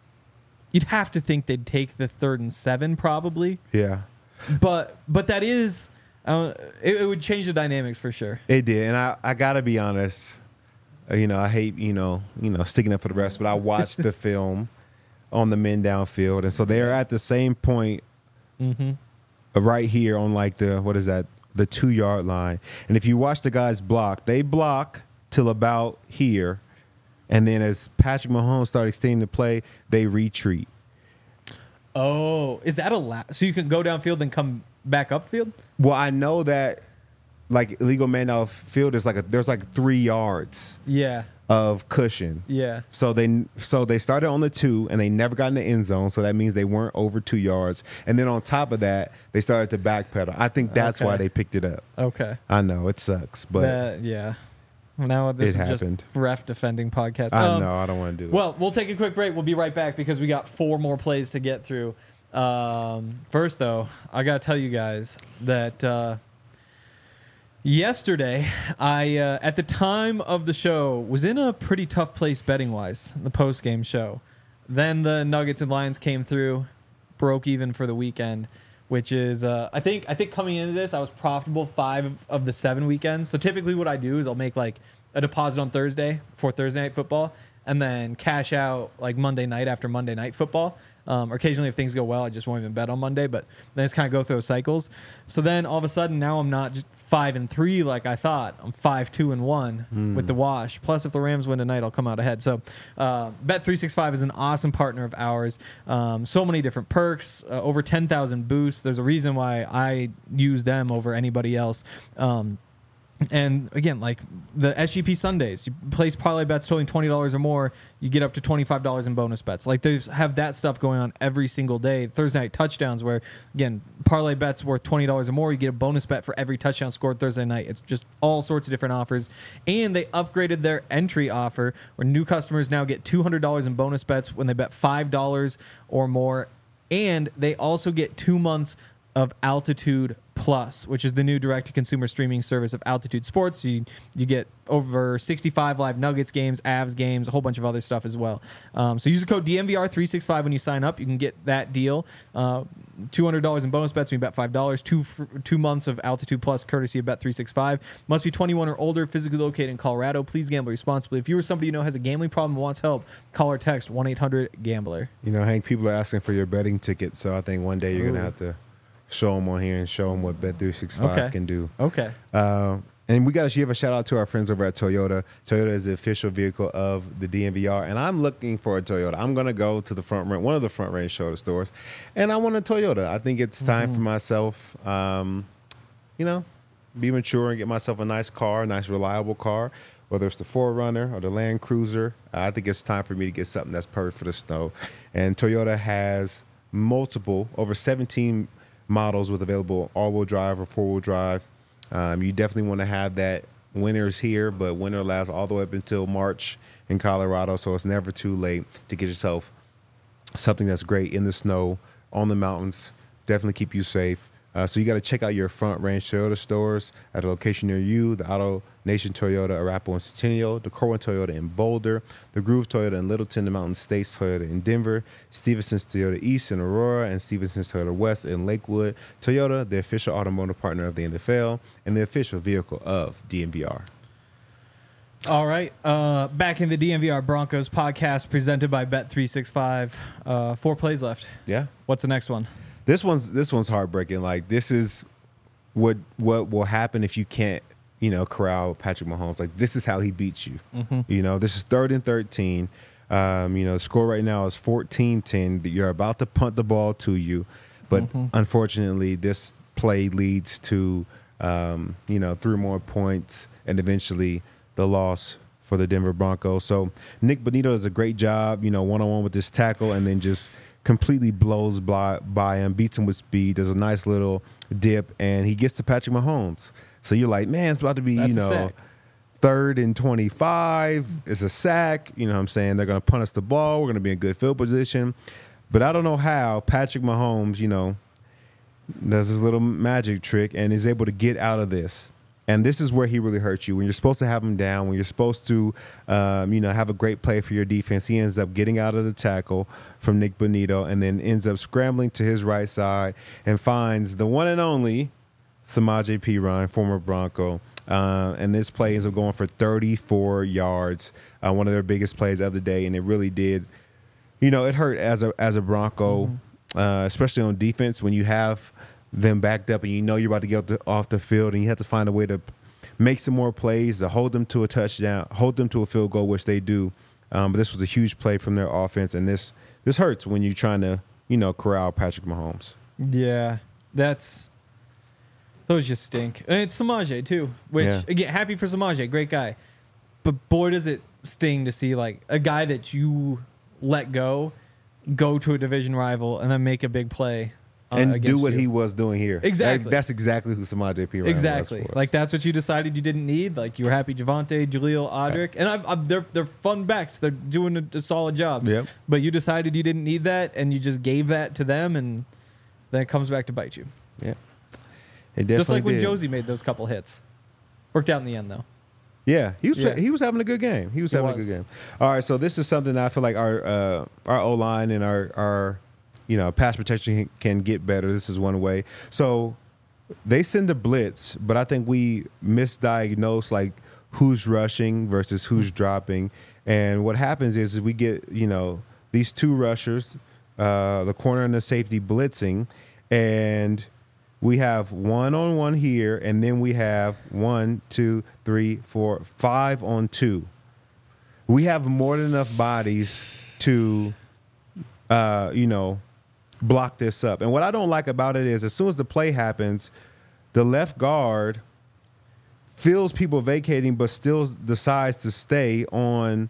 you'd have to think they'd take the third and seven probably, Yeah. but but that is uh, it, it would change the dynamics for sure. It did, and I, I gotta be honest. uh, You know, I hate you know you know sticking up for the rest, but I watched the film on the men downfield, and so they're at the same point Mm-hmm. uh, right here on like the what is that the two yard line. And if you watch the guys block, they block till about here, and then as Patrick Mahomes started extending the play, they retreat. Oh, is that allowed? So you can go downfield and come back upfield? Well, I know that like illegal man outfield is like a, there's like three yards Yeah. of cushion. Yeah. So they so they started on the two and they never got in the end zone. So that means they weren't over two yards. And then on top of that, they started to backpedal. I think that's Okay. why they picked it up. Okay. I know it sucks, but That, yeah. Now this It is happened. just ref defending podcast. I Um, know I don't want to do that. Well, we'll take a quick break. We'll be right back because we got four more plays to get through. Um, first, though, I got to tell you guys that uh, yesterday, I uh, at the time of the show was in a pretty tough place betting wise. The post game show. Then the Nuggets and Lions came through, broke even for the weekend, which is uh, I think I think coming into this I was profitable five of the seven weekends. So typically what I do is I'll make like a deposit on Thursday for Thursday night football, and then cash out like Monday night after Monday night football. Um, or occasionally if things go well, I just won't even bet on Monday, but then it's kind of go through those cycles. So then all of a sudden now I'm not just five and three like I thought. I'm five two and one Mm. with the wash. Plus, if the Rams win tonight, I'll come out ahead. So uh, Bet three sixty-five is an awesome partner of ours. Um, so many different perks, uh, over ten thousand boosts. There's a reason why I use them over anybody else. Um, And again, like the S G P Sundays, you place parlay bets totaling twenty dollars or more, you get up to twenty-five dollars in bonus bets. Like they have that stuff going on every single day. Thursday night touchdowns, where again, parlay bets worth twenty dollars or more, you get a bonus bet for every touchdown scored Thursday night. It's just all sorts of different offers. And they upgraded their entry offer, where new customers now get two hundred dollars in bonus bets when they bet five dollars or more. And they also get two months of Altitude Plus, which is the new direct-to-consumer streaming service of Altitude Sports. You you get over sixty-five live Nuggets games, Avs games, a whole bunch of other stuff as well. Um, so use the code D M V R three sixty-five when you sign up. You can get that deal. Uh, two hundred dollars in bonus bets when you bet five dollars. Two, two months of Altitude Plus courtesy of Bet three sixty-five. Must be twenty-one or older, physically located in Colorado. Please gamble responsibly. If you or somebody you know has a gambling problem and wants help, call or text one eight hundred gambler. You know, Hank, people are asking for your betting tickets, so I think one day you're Ooh. gonna have to show them on here and show them what Bet three sixty-five Okay. can do. Okay. Uh, and we got to give a shout out to our friends over at Toyota. Toyota is the official vehicle of the D M V R, and I'm looking for a Toyota. I'm gonna go to the front range, one of the front range shoulder stores, and I want a Toyota. I think it's time for myself, um, you know, be mature and get myself a nice car, a nice reliable car. Whether it's the four runner or the Land Cruiser, uh, I think it's time for me to get something that's perfect for the snow. And Toyota has multiple, over seventeen models with available all-wheel drive or four-wheel drive. Um, you definitely want to have that. Winter's here, but winter lasts all the way up until March in Colorado, so it's never too late to get yourself something that's great in the snow, on the mountains. Definitely keep you safe. Uh, so you got to check out your Front Range Toyota stores at a location near you. The Auto Nation Toyota, Arapahoe and Centennial, the Corwin Toyota in Boulder, the Groove Toyota in Littleton, the Mountain States Toyota in Denver, Stevenson's Toyota East in Aurora, and Stevenson's Toyota West in Lakewood. Toyota, the official automotive partner of the N F L and the official vehicle of D M V R. All right. Uh, back in the D M V R Broncos podcast presented by Bet three sixty-five. Uh, four plays left. Yeah. What's the next one? This one's this one's heartbreaking. Like, this is what what will happen if you can't, you know, corral Patrick Mahomes. Like, this is how he beats you. Mm-hmm. You know, this is third and thirteen. Um, you know, the score right now is fourteen ten. You're about to punt the ball to you. But Mm-hmm. unfortunately, this play leads to, um, you know, three more points and eventually the loss for the Denver Broncos. So Nick Bonito does a great job, you know, one-on-one with this tackle, and then just completely blows by, by him, beats him with speed. There's a nice little dip, and he gets to Patrick Mahomes. So you're like, man, it's about to be, That's you a know, sack. third and twenty-five. It's a sack. You know what I'm saying? They're going to punt us the ball. We're going to be in good field position. But I don't know how Patrick Mahomes, you know, does his little magic trick and is able to get out of this. And this is where he really hurts you. When you're supposed to have him down, when you're supposed to, um, you know, have a great play for your defense, he ends up getting out of the tackle from Nick Bonito and then ends up scrambling to his right side and finds the one and only Samaje Perine, former Bronco. Uh, and this play ends up going for thirty-four yards, uh, one of their biggest plays of the day. And it really did, you know, it hurt as a as a Bronco, mm-hmm. uh, especially on defense when you have them backed up and you know you're about to get off the, off the field and you have to find a way to make some more plays to hold them to a touchdown, hold them to a field goal, which they do. Um, but this was a huge play from their offense, and this this hurts when you're trying to you know, corral Patrick Mahomes. Yeah, that's those just stink. And it's Samaje too, which Yeah. again, happy for Samaje, great guy. But boy, does it sting to see like a guy that you let go, go to a division rival and then make a big play uh, And against do what you. he was doing here. Exactly. That- that's exactly who Samaje P. Exactly. was for us. Like that's what you decided you didn't need. Like you were happy Javonte, Jaleel, Audric, and I've, I've, they're they're fun backs. They're doing a, a solid job. Yep. But you decided you didn't need that, and you just gave that to them, and then it comes back to bite you. Yeah. It definitely Just like when did. Josie made those couple hits. Worked out in the end though. Yeah, he was Yeah. he was having a good game. He was He having was. a good game. All right, so this is something that I feel like our uh, our O line and our our you know pass protection can get better. This is one way. So they send a blitz, but I think we misdiagnose like who's rushing versus who's dropping. And what happens is, is we get you know these two rushers, uh, the corner and the safety blitzing, and we have one on one here, and then we have one, two, three, four, five on two. We have more than enough bodies to, uh, you know, block this up. And what I don't like about it is, as soon as the play happens, the left guard feels people vacating, but still decides to stay on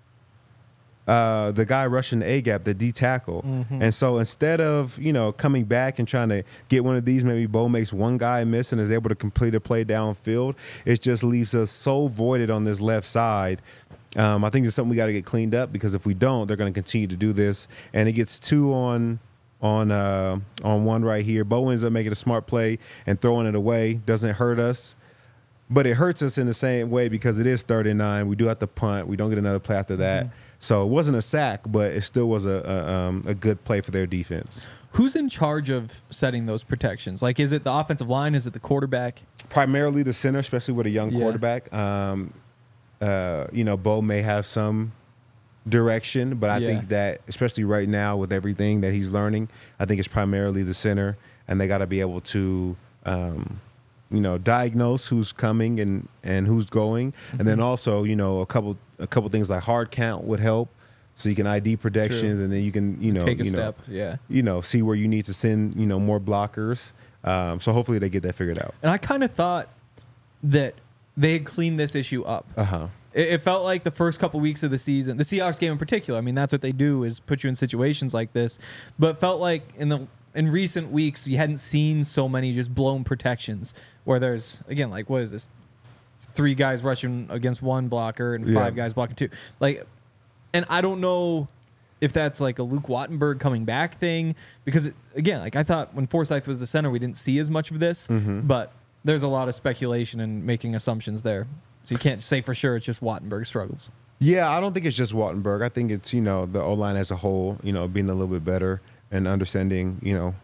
Uh, the guy rushing the A gap, the D tackle. Mm-hmm. And so instead of, you know, coming back and trying to get one of these, maybe Bo makes one guy miss and is able to complete a play downfield, it just leaves us so voided on this left side. Um, I think it's something we got to get cleaned up, because if we don't, they're going to continue to do this. And it gets two on on uh, on one right here. Bo ends up making a smart play and throwing it away. Doesn't hurt us. But it hurts us in the same way, because it is third and nine. We do have to punt. We don't get another play after that. Mm-hmm. So it wasn't a sack, but it still was a a, um, a good play for their defense. Who's in charge of setting those protections? Like, is it the offensive line? Is it the quarterback? Primarily the center, especially with a young Yeah. quarterback. Um, uh, you know, Bo may have some direction, but I Yeah. think that, especially right now with everything that he's learning, I think it's primarily the center, and they got to be able to, um, you know, diagnose who's coming and, and who's going, Mm-hmm. and then also, you know, a couple a couple things like hard count would help, so you can I D protections, True. and then you can, you know, Take a you know, step. Yeah. you know, see where you need to send, you know, more blockers. Um, so hopefully they get that figured out. And I kind of thought that they had cleaned this issue up. Uh huh. It, it felt like the first couple weeks of the season, the Seahawks game in particular. I mean, that's what they do, is put you in situations like this. But it felt like in the in recent weeks, you hadn't seen so many just blown protections where there's, again, like, what is this? Three guys rushing against one blocker and five Yeah. guys blocking two. Like, and I don't know if that's like a Luke Wattenberg coming back thing, because it, again, like I thought when Forsyth was the center, we didn't see as much of this, Mm-hmm. but there's a lot of speculation and making assumptions there. So you can't say for sure it's just Wattenberg struggles. Yeah, I don't think it's just Wattenberg. I think it's, you know, the O-line as a whole, you know, being a little bit better and understanding, you know,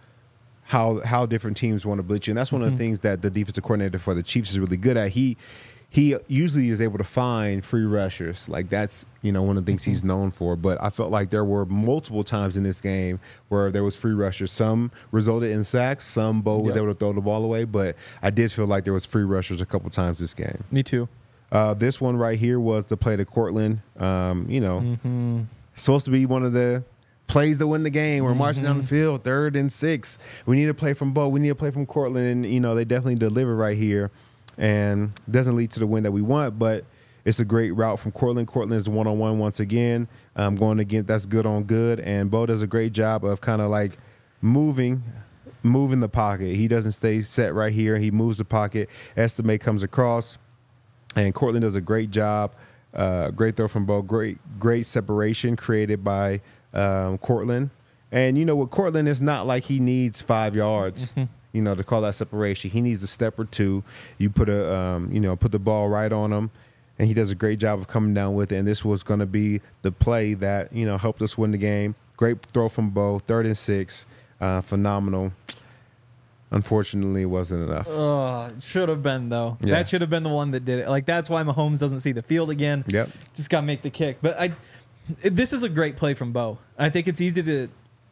how how different teams want to blitz you. And that's one of the things that the defensive coordinator for the Chiefs is really good at. He he usually is able to find free rushers. Like, that's, you know, one of the things he's known for. But I felt like there were multiple times in this game where there was free rushers. Some resulted in sacks. Some Bo was Yep. able to throw the ball away. But I did feel like there was free rushers a couple times this game. Me too. Uh, this one right here was the play to Cortland. Um, you know, Mm-hmm. supposed to be one of the plays to win the game. We're marching down the field, third and six. We need to play from Bo. We need to play from Cortland. And, you know, they definitely deliver right here. And doesn't lead to the win that we want, but it's a great route from Cortland. Cortland is one-on-one once again. Um, going again, that's good on good. And Bo does a great job of kind of like moving, moving the pocket. He doesn't stay set right here. He moves the pocket. Estimate comes across. And Cortland does a great job. Uh, great throw from Bo. Great, great separation created by um, Cortland. And, you know, with Cortland, it's not like he needs five yards, Mm-hmm. you know, to call that separation. He needs a step or two. You put a, um, you know, put the ball right on him, and he does a great job of coming down with it. And this was going to be the play that, you know, helped us win the game. Great throw from Bo. Third and six. Uh, phenomenal. Unfortunately, it wasn't enough. Oh, should have been though. Yeah. That should have been the one that did it. Like, that's why Mahomes doesn't see the field again. Yep. Just got to make the kick. But I, it- this is a great play from Bo. I think it's easy to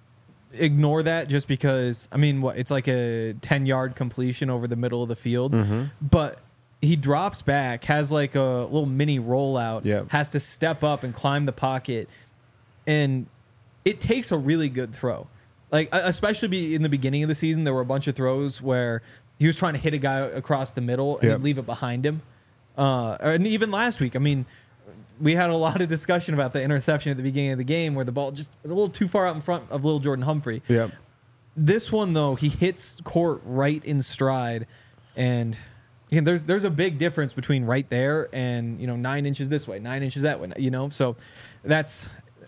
ignore that just because, I mean, what it's like a ten-yard completion over the middle of the field. Mm-hmm. But he drops back, has like a little mini rollout, Yep. has to step up and climb the pocket. And it takes a really good throw. Like, especially be in the beginning of the season, there were a bunch of throws where he was trying to hit a guy across the middle and Yep. he'd leave it behind him. Uh, and even last week, I mean, we had a lot of discussion about the interception at the beginning of the game where the ball just was a little too far out in front of little Jordan Humphrey. Yep. This one, though, he hits Court right in stride, and again, there's there's a big difference between right there and, you know, nine inches this way, nine inches that way, you know? So that's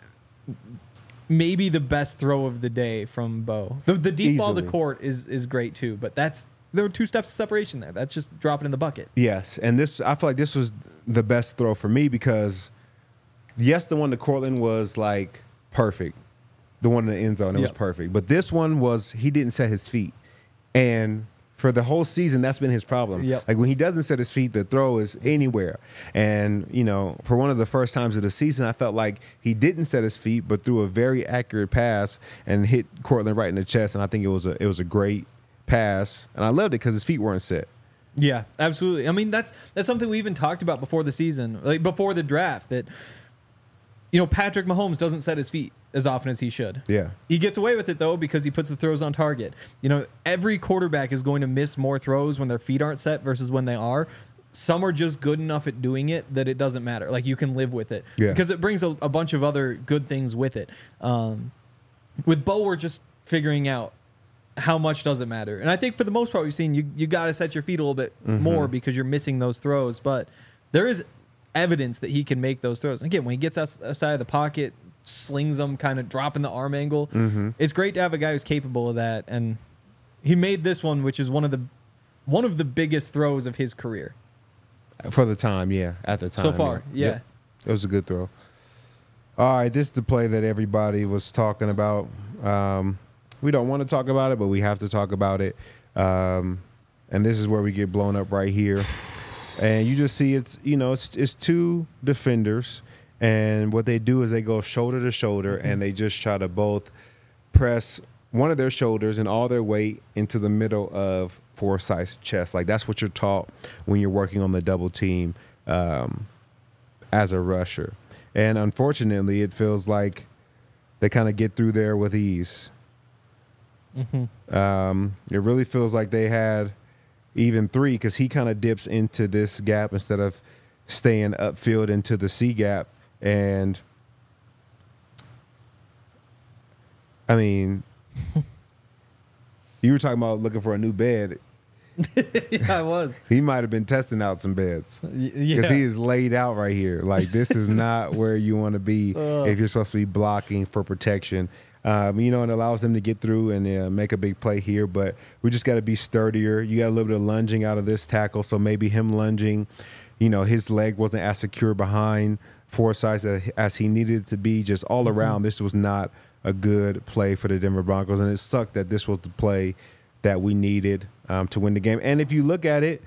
maybe the best throw of the day from Bo. The, the deep ball to Easily. Court is is great, too, but that's there were two steps of separation there. That's just dropping in the bucket. Yes, and this I feel like this was the best throw for me because, yes, the one to Cortland was like perfect. The one in the end zone, it was Yep. perfect. But this one was, he didn't set his feet. And for the whole season, that's been his problem. Yep. Like when he doesn't set his feet, the throw is anywhere. And, you know, for one of the first times of the season, I felt like he didn't set his feet, but threw a very accurate pass and hit Cortland right in the chest. And I think it was a it was a great pass. And I loved it because his feet weren't set. Yeah, absolutely. I mean, that's that's something we even talked about before the season, like before the draft, that, you know, Patrick Mahomes doesn't set his feet as often as he should. Yeah. He gets away with it, though, because he puts the throws on target. You know, every quarterback is going to miss more throws when their feet aren't set versus when they are. Some are just good enough at doing it that it doesn't matter. Like, you can live with it. Yeah. Because it brings a, a bunch of other good things with it. Um, with Bo, we're just figuring out how much does it matter. And I think for the most part, we've seen you, you got to set your feet a little bit Mm-hmm. more because you're missing those throws. But there is evidence that he can make those throws. Again, when he gets outs- outside of the pocket, slings them, kind of dropping the arm angle. Mm-hmm. It's great to have a guy who's capable of that, and he made this one, which is one of the one of the biggest throws of his career For the time, yeah. At the time. so far. Yeah, Yep. It was a good throw. All right, this is the play that everybody was talking about. Um, we don't want to talk about it, but we have to talk about it. Um, and this is where we get blown up right here. And you just see it's, you know, it's, it's two defenders. And what they do is they go shoulder to shoulder and they just try to both press one of their shoulders and all their weight into the middle of Forsyth's chest. Like that's what you're taught when you're working on the double team um, as a rusher. And unfortunately, it feels like they kind of get through there with ease. Mm-hmm. Um, it really feels like they had even three because he kind of dips into this gap instead of staying upfield into the C gap. And I mean, you were talking about looking for a new bed. yeah, I was. He might have been testing out some beds Y- because yeah. he is laid out right here. Like this is not where you want to be Ugh. if you're supposed to be blocking for protection. Um, you know, it allows them to get through and uh, make a big play here. But we just got to be sturdier. You got a little bit of lunging out of this tackle, so maybe him lunging, you know, his leg wasn't as secure behind Forsyth as, as he needed it to be. Just all Mm-hmm. around, this was not a good play for the Denver Broncos, and it sucked that this was the play that we needed um, to win the game. And if you look at it,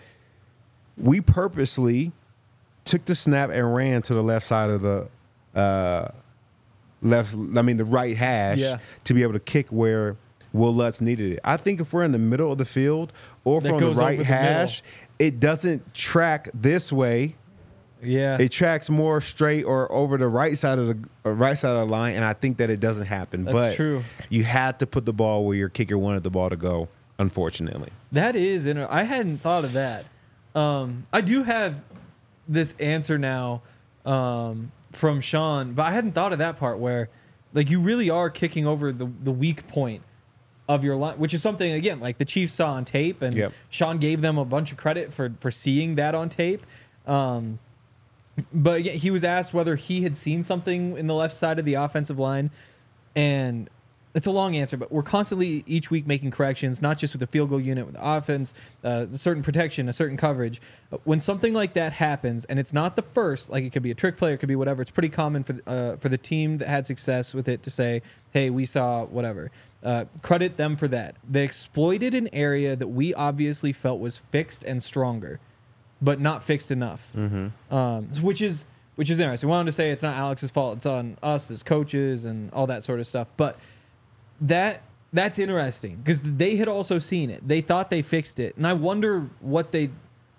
we purposely took the snap and ran to the left side of the uh, left. I mean, the right hash Yeah. to be able to kick where Will Lutz needed it. I think if we're in the middle of the field or That from the goes right over the hash, it doesn't track this way. Yeah. It tracks more straight or over the right side of the uh, right side of the line, and I think that it doesn't happen. That's but true. You had to put the ball where your kicker wanted the ball to go. Unfortunately, That is, inter- I hadn't thought of that. Um, I do have this answer now um, from Sean, but I hadn't thought of that part where, like, you really are kicking over the, the weak point of your line, which is something, again, like the Chiefs saw on tape, and Yep. Sean gave them a bunch of credit for, for seeing that on tape. Um, but again, he was asked whether he had seen something in the left side of the offensive line, and it's a long answer, but we're constantly each week making corrections, not just with the field goal unit, with the offense, uh, a certain protection, a certain coverage. When something like that happens, and it's not the first, like it could be a trick play, it could be whatever, it's pretty common for uh, for the team that had success with it to say, hey, we saw whatever. Uh, credit them for that. They exploited an area that we obviously felt was fixed and stronger, but not fixed enough, mm-hmm. um, which is which is interesting. I wanted to say it's not Alex's fault. It's on us as coaches and all that sort of stuff, but That that's interesting because they had also seen it. They thought they fixed it, and I wonder what they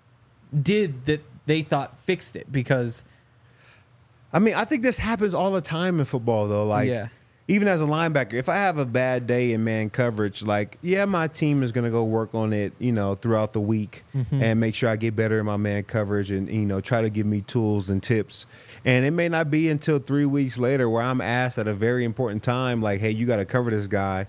did that they thought fixed it. Because I mean, I think this happens all the time in football, though. Like, yeah, even as a linebacker, if I have a bad day in man coverage, like, yeah, my team is going to go work on it, you know, throughout the week mm-hmm. and make sure I get better in my man coverage and, you know, try to give me tools and tips. And it may not be until three weeks later where I'm asked at a very important time, like, hey, you got to cover this guy.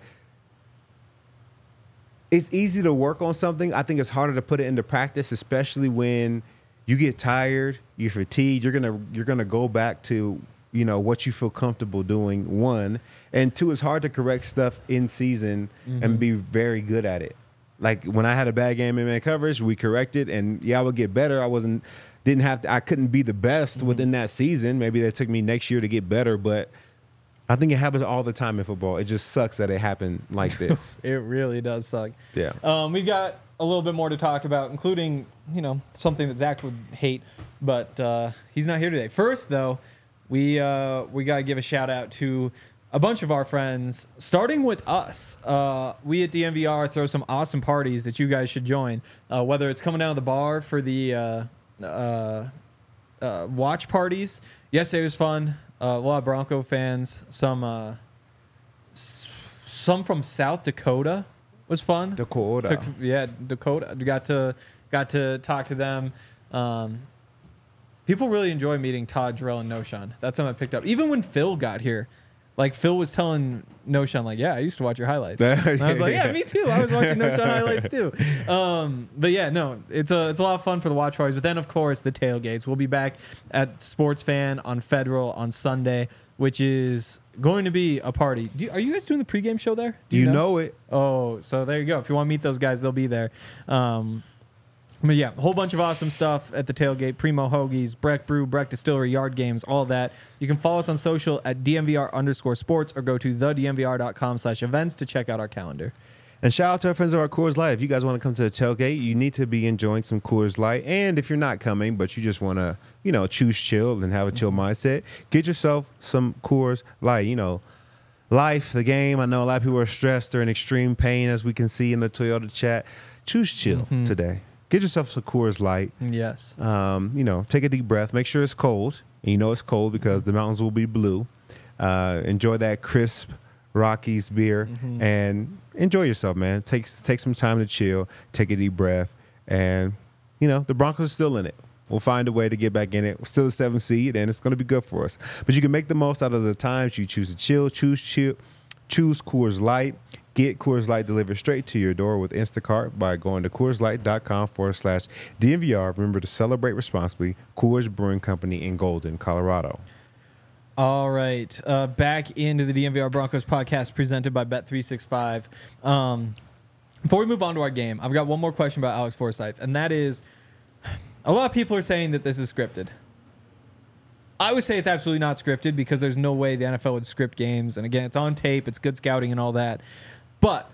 It's easy to work on something. I think it's harder to put it into practice, especially when you get tired, you're fatigued. You're gonna you're gonna go back to, you know, what you feel comfortable doing. One and two, it's hard to correct stuff in season mm-hmm. and be very good at it. Like when I had a bad game in man coverage, we corrected, and yeah, I would get better. I wasn't didn't have to. I couldn't be the best mm-hmm. within that season. Maybe that took me next year to get better, but I think it happens all the time in football. It just sucks that it happened like this. It really does suck. Yeah. Um, we've got a little bit more to talk about, including, you know, something that Zach would hate, but uh, he's not here today. First, though, we uh, we got to give a shout out to a bunch of our friends, starting with us. Uh, we at D M V R throw some awesome parties that you guys should join, uh, whether it's coming down to the bar for the uh, uh, uh, watch parties. Yesterday was fun. Uh, a lot of Bronco fans, some uh, s- some from South Dakota was fun. Dakota, Took, yeah, Dakota. Got to got to talk to them. Um, people really enjoy meeting Todd, Jarrell, and Noshan. That's something I picked up. Even when Phil got here, like Phil was telling Noshan, like, yeah, I used to watch your highlights. And I was like, yeah, me too. I was watching Noshan highlights too. Um, but yeah, no, it's a it's a lot of fun for the watch parties. But then, of course, the tailgates. We'll be back at Sports Fan on Federal on Sunday, which is going to be a party. Do you, are you guys doing the pregame show there? Do you, you know? know it. Oh, so there you go. If you want to meet those guys, they'll be there. Um, But yeah, a whole bunch of awesome stuff at the tailgate. Primo Hoagies, Breck Brew, Breck Distillery, Yard Games, all that. You can follow us on social at D M V R underscore sports or go to the D M V R dot com slash events to check out our calendar. And shout out to our friends of our Coors Light. If you guys want to come to the tailgate, you need to be enjoying some Coors Light. And if you're not coming, but you just want to, you know, choose chill and have a chill mindset, get yourself some Coors Light. You know, life, the game. I know a lot of people are stressed or in extreme pain, as we can see in the Toyota chat. Choose chill mm-hmm. today. Get yourself some Coors Light. Yes. Um, you know, take a deep breath. Make sure it's cold. And you know it's cold because the mountains will be blue. Uh, enjoy that crisp Rockies beer mm-hmm. and enjoy yourself, man. Take take some time to chill. Take a deep breath. And, you know, the Broncos are still in it. We'll find a way to get back in it. We're still a seven seed, and it's going to be good for us. But you can make the most out of the times you choose to chill. Choose chill. Choose Coors Light. Get Coors Light delivered straight to your door with Instacart by going to CoorsLight.com forward slash DMVR. Remember to celebrate responsibly. Coors Brewing Company in Golden, Colorado. All right. Uh, back into the D M V R Broncos podcast presented by Bet three sixty-five. Um, before we move on to our game, I've got one more question about Alex Forsyth, and that is, a lot of people are saying that this is scripted. I would say it's absolutely not scripted because there's no way the N F L would script games. And again, it's on tape. It's good scouting and all that. But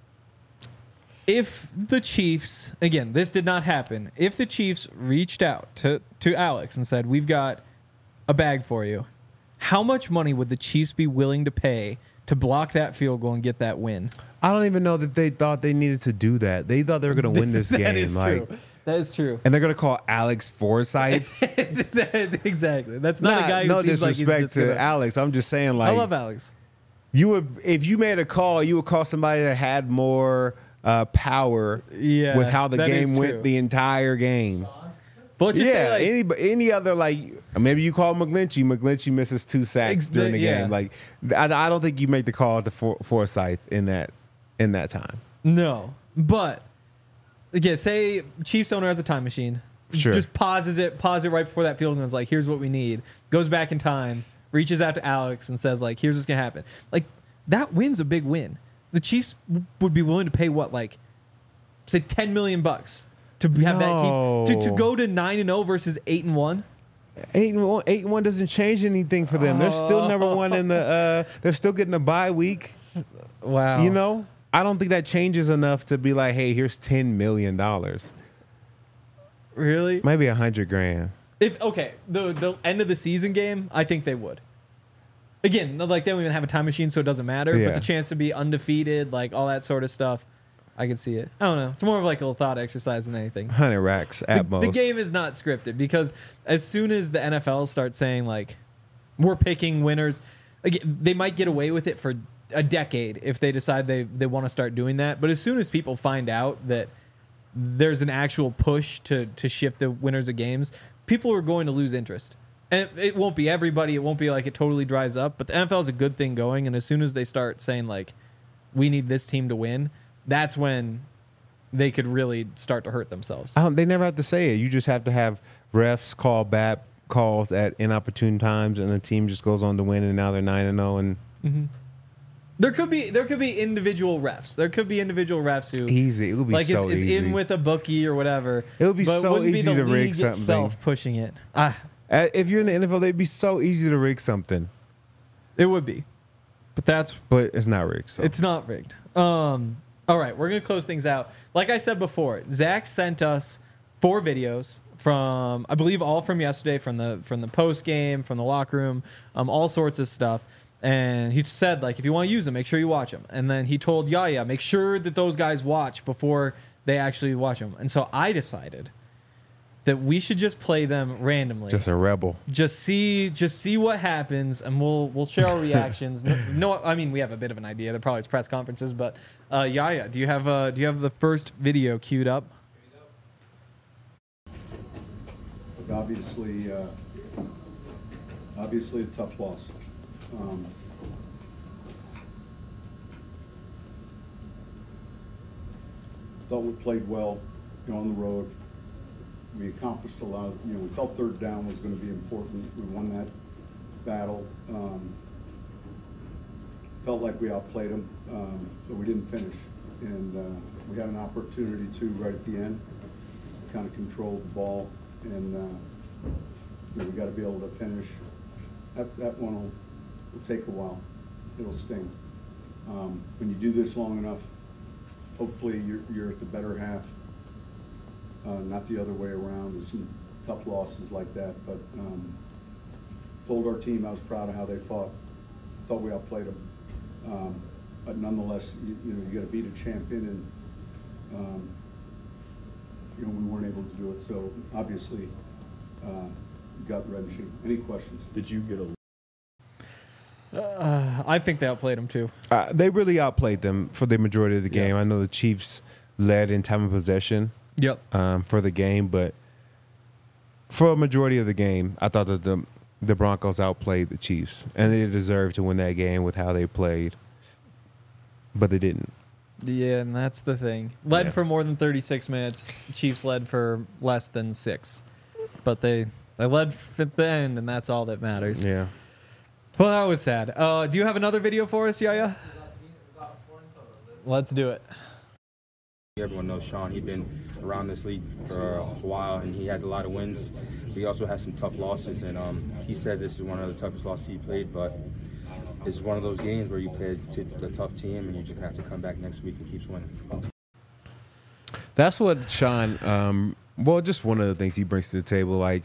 if the Chiefs, again, this did not happen. If the Chiefs reached out to, to Alex and said, we've got a bag for you, how much money would the Chiefs be willing to pay to block that field goal and get that win? I don't even know that they thought they needed to do that. They thought they were going to win this that game. Is like, true. That is true. And they're going to call Alex Forsyth. Exactly. That's not nah, a guy who no seems like he's disrespect just to gonna... Alex. I'm just saying, like, I love Alex. You would, if you made a call, you would call somebody that had more uh, power yeah, with how the game went true. the entire game. But just yeah, say like, any any other, like, maybe you call McGlinchey. McGlinchey misses two sacks ex- during the yeah. game. Like, I, I don't think you make the call to For, Forsyth in that in that time. No, but again, say Chiefs owner has a time machine. Sure. Just pauses it, pause it right before that field goal. Is like, here's what we need. Goes back in time. Reaches out to Alex and says, like, here's what's going to happen. Like, that win's a big win. The Chiefs w- would be willing to pay, what, like, say ten million bucks to have no. that key, to, to go to nine and oh versus eight and one? eight and one, eight and one doesn't change anything for them. They're still number one in the, uh, they're still getting a bye week. Wow. You know? I don't think that changes enough to be like, hey, here's ten million dollars. Really? Maybe a hundred grand. If okay, the the end of the season game, I think they would. Again, like they don't even have a time machine, so it doesn't matter. Yeah. But the chance to be undefeated, like all that sort of stuff, I can see it. I don't know. It's more of like a little thought exercise than anything. Hundred racks at the, most. The game is not scripted because as soon as the N F L starts saying like we're picking winners, like, they might get away with it for a decade if they decide they, they want to start doing that. But as soon as people find out that there's an actual push to, to shift the winners of games, people are going to lose interest. And it, it won't be everybody. It won't be like it totally dries up. But the N F L is a good thing going. And as soon as they start saying, like, we need this team to win, that's when they could really start to hurt themselves. I don't, they never have to say it. You just have to have refs call bad calls at inopportune times, and the team just goes on to win, and now they're nine and zero. And mm-hmm. there could be there could be individual refs. There could be individual refs who easy. It would be like so is, is easy. in with a bookie or whatever. It would be but so wouldn't easy be the to rig league something. itself pushing it. Ah, Uh, if you're in the N F L, it'd be so easy to rig something, it would be, but that's but it's not rigged. So. it's not rigged. Um. All right, we're gonna close things out. Like I said before, Zach sent us four videos from, I believe, all from yesterday, from the from the post game, from the locker room, um, all sorts of stuff. And he said, like, if you want to use them, make sure you watch them. And then he told Yaya, make sure that those guys watch before they actually watch them. And so I decided that we should just play them randomly. Just a rebel. Just see, just see what happens, and we'll we'll share our reactions. no, no, I mean we have a bit of an idea. There probably is press conferences, but uh, Yaya, do you have uh, do you have the first video queued up? Obviously, uh, obviously a tough loss. Um, thought we played well, you know, on the road. We accomplished a lot. Of, you know, we felt third down was going to be important. We won that battle. Um, felt like we outplayed them, um, but we didn't finish. And uh, we had an opportunity to right at the end, kind of control the ball, and uh, you know, we got to be able to finish. That that one will, will take a while. It'll sting. Um, when you do this long enough, hopefully you're you're at the better half. Uh, not the other way around. There's some tough losses like that, but um, told our team I was proud of how they fought. Thought we outplayed them, um, but nonetheless, you, you know, you got to beat a champion, and um, you know we weren't able to do it. So obviously, uh, gut wrenching. Any questions? Did you get a? Uh, I think they outplayed them too. Uh, they really outplayed them for the majority of the game. Yeah. I know the Chiefs led in time of possession. Yep. Um, for the game, but for a majority of the game, I thought that the the Broncos outplayed the Chiefs, and they deserved to win that game with how they played, but they didn't. Yeah, and that's the thing. Led Yeah. for more than thirty-six minutes. Chiefs led for less than six, but they they led at the end, and that's all that matters. Yeah. Well, that was sad. Uh, do you have another video for us, Yaya? Let's do it. Everyone knows Sean. He's been around this league for a while, and he has a lot of wins. He also has some tough losses, and um, he said this is one of the toughest losses he played, but it's one of those games where you play to the tough team, and you just have to come back next week and keep winning. That's what Sean, um, well, just one of the things he brings to the table. Like,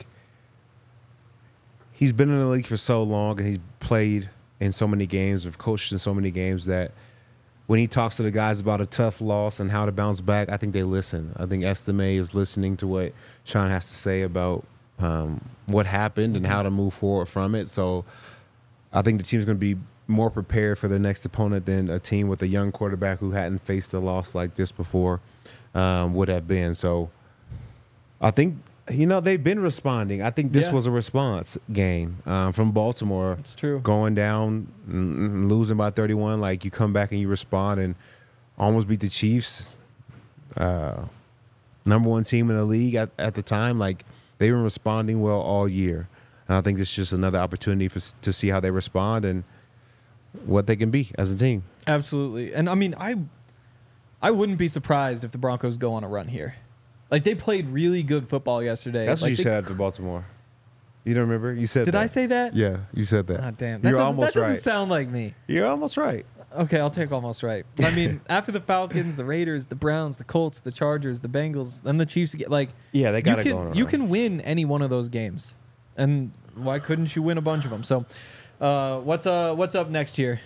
he's been in the league for so long, and he's played in so many games, have coached in so many games, that when he talks to the guys about a tough loss and how to bounce back, I think they listen. I think Estime is listening to what Sean has to say about um, what happened and how to move forward from it. So I think the team's going to be more prepared for their next opponent than a team with a young quarterback who hadn't faced a loss like this before um, would have been. So I think, you know, they've been responding. I think this Yeah. was a response game um, from Baltimore. It's true. Going down, and losing by thirty-one, like you come back and you respond and almost beat the Chiefs, uh, number one team in the league at, at the time. Like, they've been responding well all year. And I think this is just another opportunity for, to see how they respond and what they can be as a team. Absolutely. And I mean, I I wouldn't be surprised if the Broncos go on a run here. Like, they played really good football yesterday. That's like what you they, said after Baltimore. You don't remember? You said Did that. I say that? Yeah, you said that. Ah, damn. That You're doesn't, almost that doesn't right. sound like me. You're almost right. Okay, I'll take almost right. I mean, after the Falcons, the Raiders, the Browns, the Colts, the Chargers, the Bengals, then the Chiefs, get like Yeah, they got you to can, go on. You can win any one of those games, and why couldn't you win a bunch of them? So, uh, what's uh what's up next here?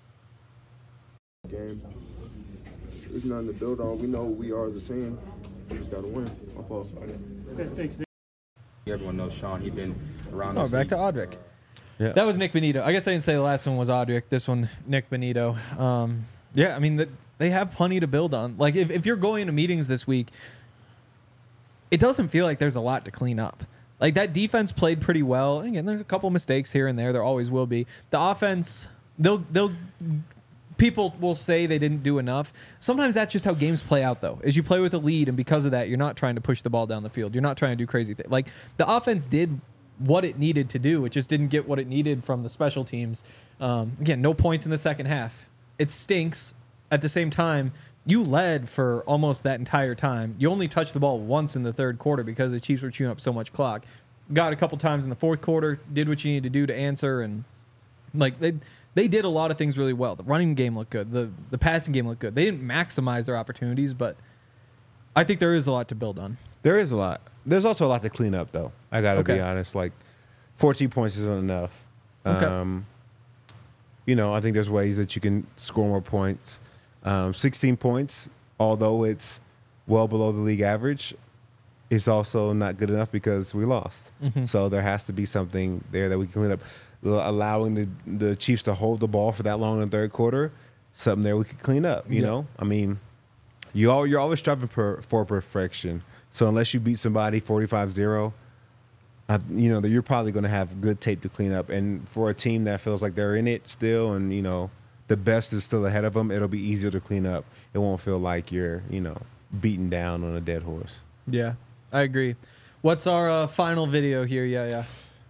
Game. There's nothing to build on. We know who we are as a team. We just got to win. My fault. Everyone knows Sean. He's been around Oh, this back league. to Audric. Yeah. That was Nick Benito. I guess I didn't say the last one was Audric. This one, Nick Benito. Um, yeah, I mean, the, they have plenty to build on. Like, if, if you're going to meetings this week, it doesn't feel like there's a lot to clean up. Like, that defense played pretty well. Again, there's a couple mistakes here and there. There always will be. The offense, they'll they'll people will say they didn't do enough. Sometimes that's just how games play out, though. Is you play with a lead, and because of that, you're not trying to push the ball down the field. You're not trying to do crazy things. Like, the offense did what it needed to do. It just didn't get what it needed from the special teams. Um, again, no points in the second half. It stinks. At the same time, you led for almost that entire time. You only touched the ball once in the third quarter because the Chiefs were chewing up so much clock. Got a couple times in the fourth quarter, did what you needed to do to answer, and like they they did a lot of things really well. The running game looked good. The the passing game looked good. They didn't maximize their opportunities, but I think there is a lot to build on. There is a lot. There's also a lot to clean up, though. I got to Okay. be honest. Like, fourteen points isn't enough. Okay. Um, you know, I think there's ways that you can score more points. Um, sixteen points, although it's well below the league average, it's also not good enough because we lost. Mm-hmm. So there has to be something there that we can clean up. Allowing the, the Chiefs to hold the ball for that long in the third quarter, something there we could clean up, you Yeah. know? I mean, you all, you're always striving for, for perfection. So unless you beat somebody forty-five zero, uh, you know, that you're probably going to have good tape to clean up. And for a team that feels like they're in it still and, you know, the best is still ahead of them, it'll be easier to clean up. It won't feel like you're, you know, beaten down on a dead horse. Yeah, I agree. What's our uh, final video here? Yeah, yeah.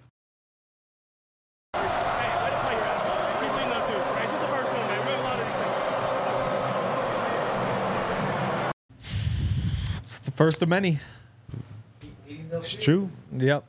It's the first of many. It's true. Yep.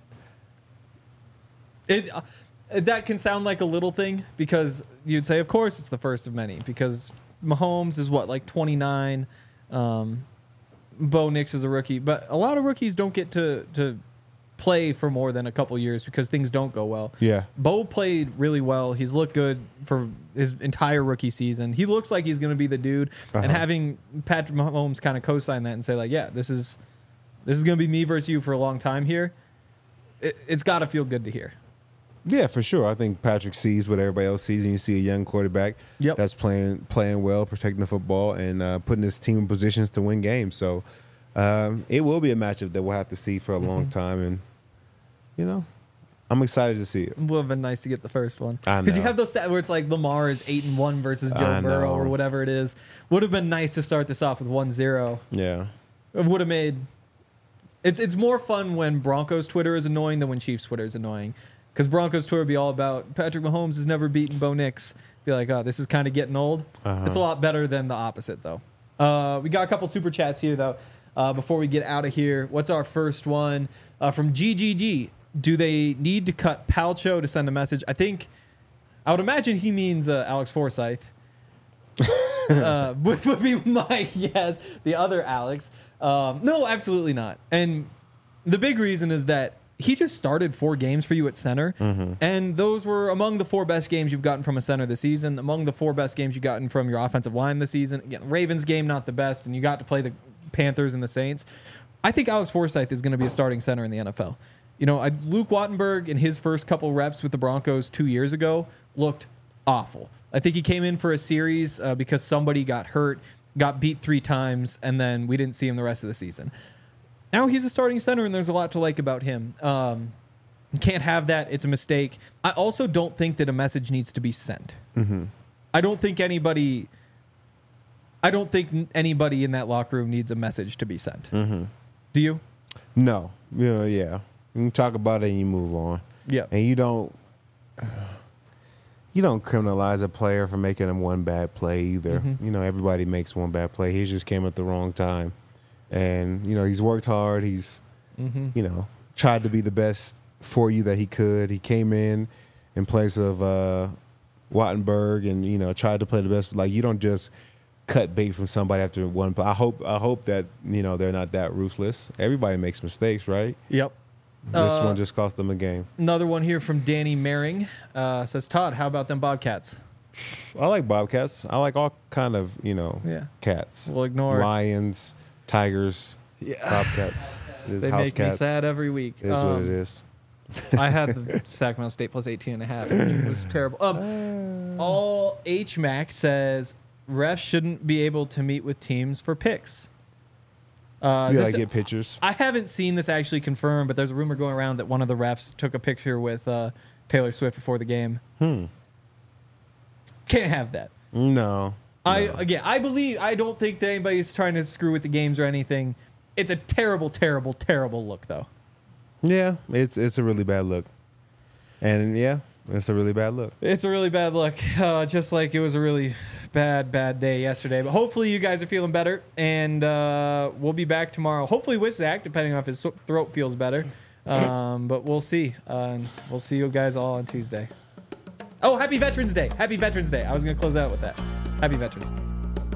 It uh, that can sound like a little thing because you'd say, of course, it's the first of many because Mahomes is what, like twenty-nine. Um, Bo Nix is a rookie, but a lot of rookies don't get to to play for more than a couple years because things don't go well. Yeah. Bo played really well. He's looked good for his entire rookie season. He looks like he's going to be the dude. Uh-huh. And having Patrick Mahomes kind of co-sign that and say like, yeah, this is this is going to be me versus you for a long time here. It, it's got to feel good to hear. Yeah, for sure. I think Patrick sees what everybody else sees, and you see a young quarterback Yep. that's playing playing well, protecting the football, and uh, putting his team in positions to win games. So um, it will be a matchup that we'll have to see for a long time, and you know, I'm excited to see it. It would have been nice to get the first one. I Because you know. have those stats where it's like Lamar is eight and one versus Joe I Burrow know. or whatever it is. Would have been nice to start this off with one zero. Yeah. It would have made it's it's more fun when Broncos Twitter is annoying than when Chiefs Twitter is annoying. Because Broncos Twitter would be all about Patrick Mahomes has never beaten Bo Nix. Be like, oh, this is kind of getting old. Uh-huh. It's a lot better than the opposite, though. Uh, we got a couple super chats here, though. Uh, before we get out of here, what's our first one uh, from G G G? Do they need to cut Palcho to send a message? I think I would imagine he means uh, Alex Forsyth. uh, would, would be my yes. The other Alex. Um, no, absolutely not. And the big reason is that he just started four games for you at center, and those were among the four best games you've gotten from a center this season, among the four best games you've gotten from your offensive line this season. Again, Ravens game, not the best, and you got to play the Panthers and the Saints. I think Alex Forsyth is going to be a starting center in the N F L. You know, I, Luke Wattenberg in his first couple reps with the Broncos two years ago looked awful. I think he came in for a series uh, because somebody got hurt, got beat three times, and then we didn't see him the rest of the season. Now he's a starting center, and there's a lot to like about him. Um, can't have that. It's a mistake. I also don't think that a message needs to be sent. Mm-hmm. I don't think anybody... I don't think anybody in that locker room needs a message to be sent. Mm-hmm. Do you? No. Yeah, yeah. You can talk about it and you move on. Yeah. And you don't you don't criminalize a player for making him one bad play either. Mm-hmm. You know, everybody makes one bad play. He just came at the wrong time. And, you know, he's worked hard. He's, Mm-hmm. you know, tried to be the best for you that he could. He came in in place of uh, Wattenberg and, you know, tried to play the best. Like, you don't just cut bait from somebody after one play. I hope, I hope that, you know, they're not that ruthless. Everybody makes mistakes, right? Yep. This Uh, one just cost them a game. Another one here from Danny Maring uh, says, Todd, how about them Bobcats? I like Bobcats. I like all kind of, you know, Yeah. cats. We'll ignore. Lions, tigers, Yeah. Bobcats. They house make cats. me sad every week. It is what Um, it is. I had the Sacramento State plus eighteen and a half, which was terrible. Um, all H Mac says refs shouldn't be able to meet with teams for picks. Uh, You this- gotta get pictures. I haven't seen this actually confirmed, but there's a rumor going around that one of the refs took a picture with uh, Taylor Swift before the game. Hmm. Can't have that. No. I no. again, I believe I don't think that anybody's trying to screw with the games or anything. It's a terrible, terrible, terrible look, though. Yeah, it's it's a really bad look, and yeah, it's a really bad look. It's a really bad look, uh, just like it was a really bad, bad day yesterday. But hopefully you guys are feeling better, and uh, we'll be back tomorrow. Hopefully with Zach, depending on if his so- throat feels better. Um, but we'll see. Uh, we'll see you guys all on Tuesday. Oh, happy Veterans Day. Happy Veterans Day. I was going to close out with that. Happy Veterans Day.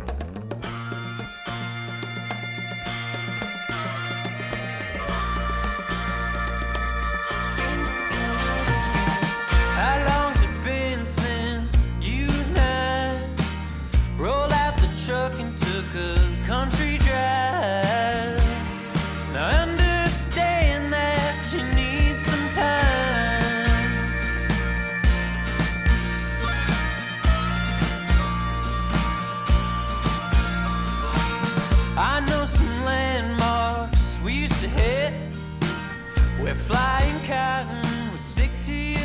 How long's it been since you and I rolled out the truck and took a country drive? Now I understand that you need some time. I know some landmarks we used to hit where flying cotton would stick to your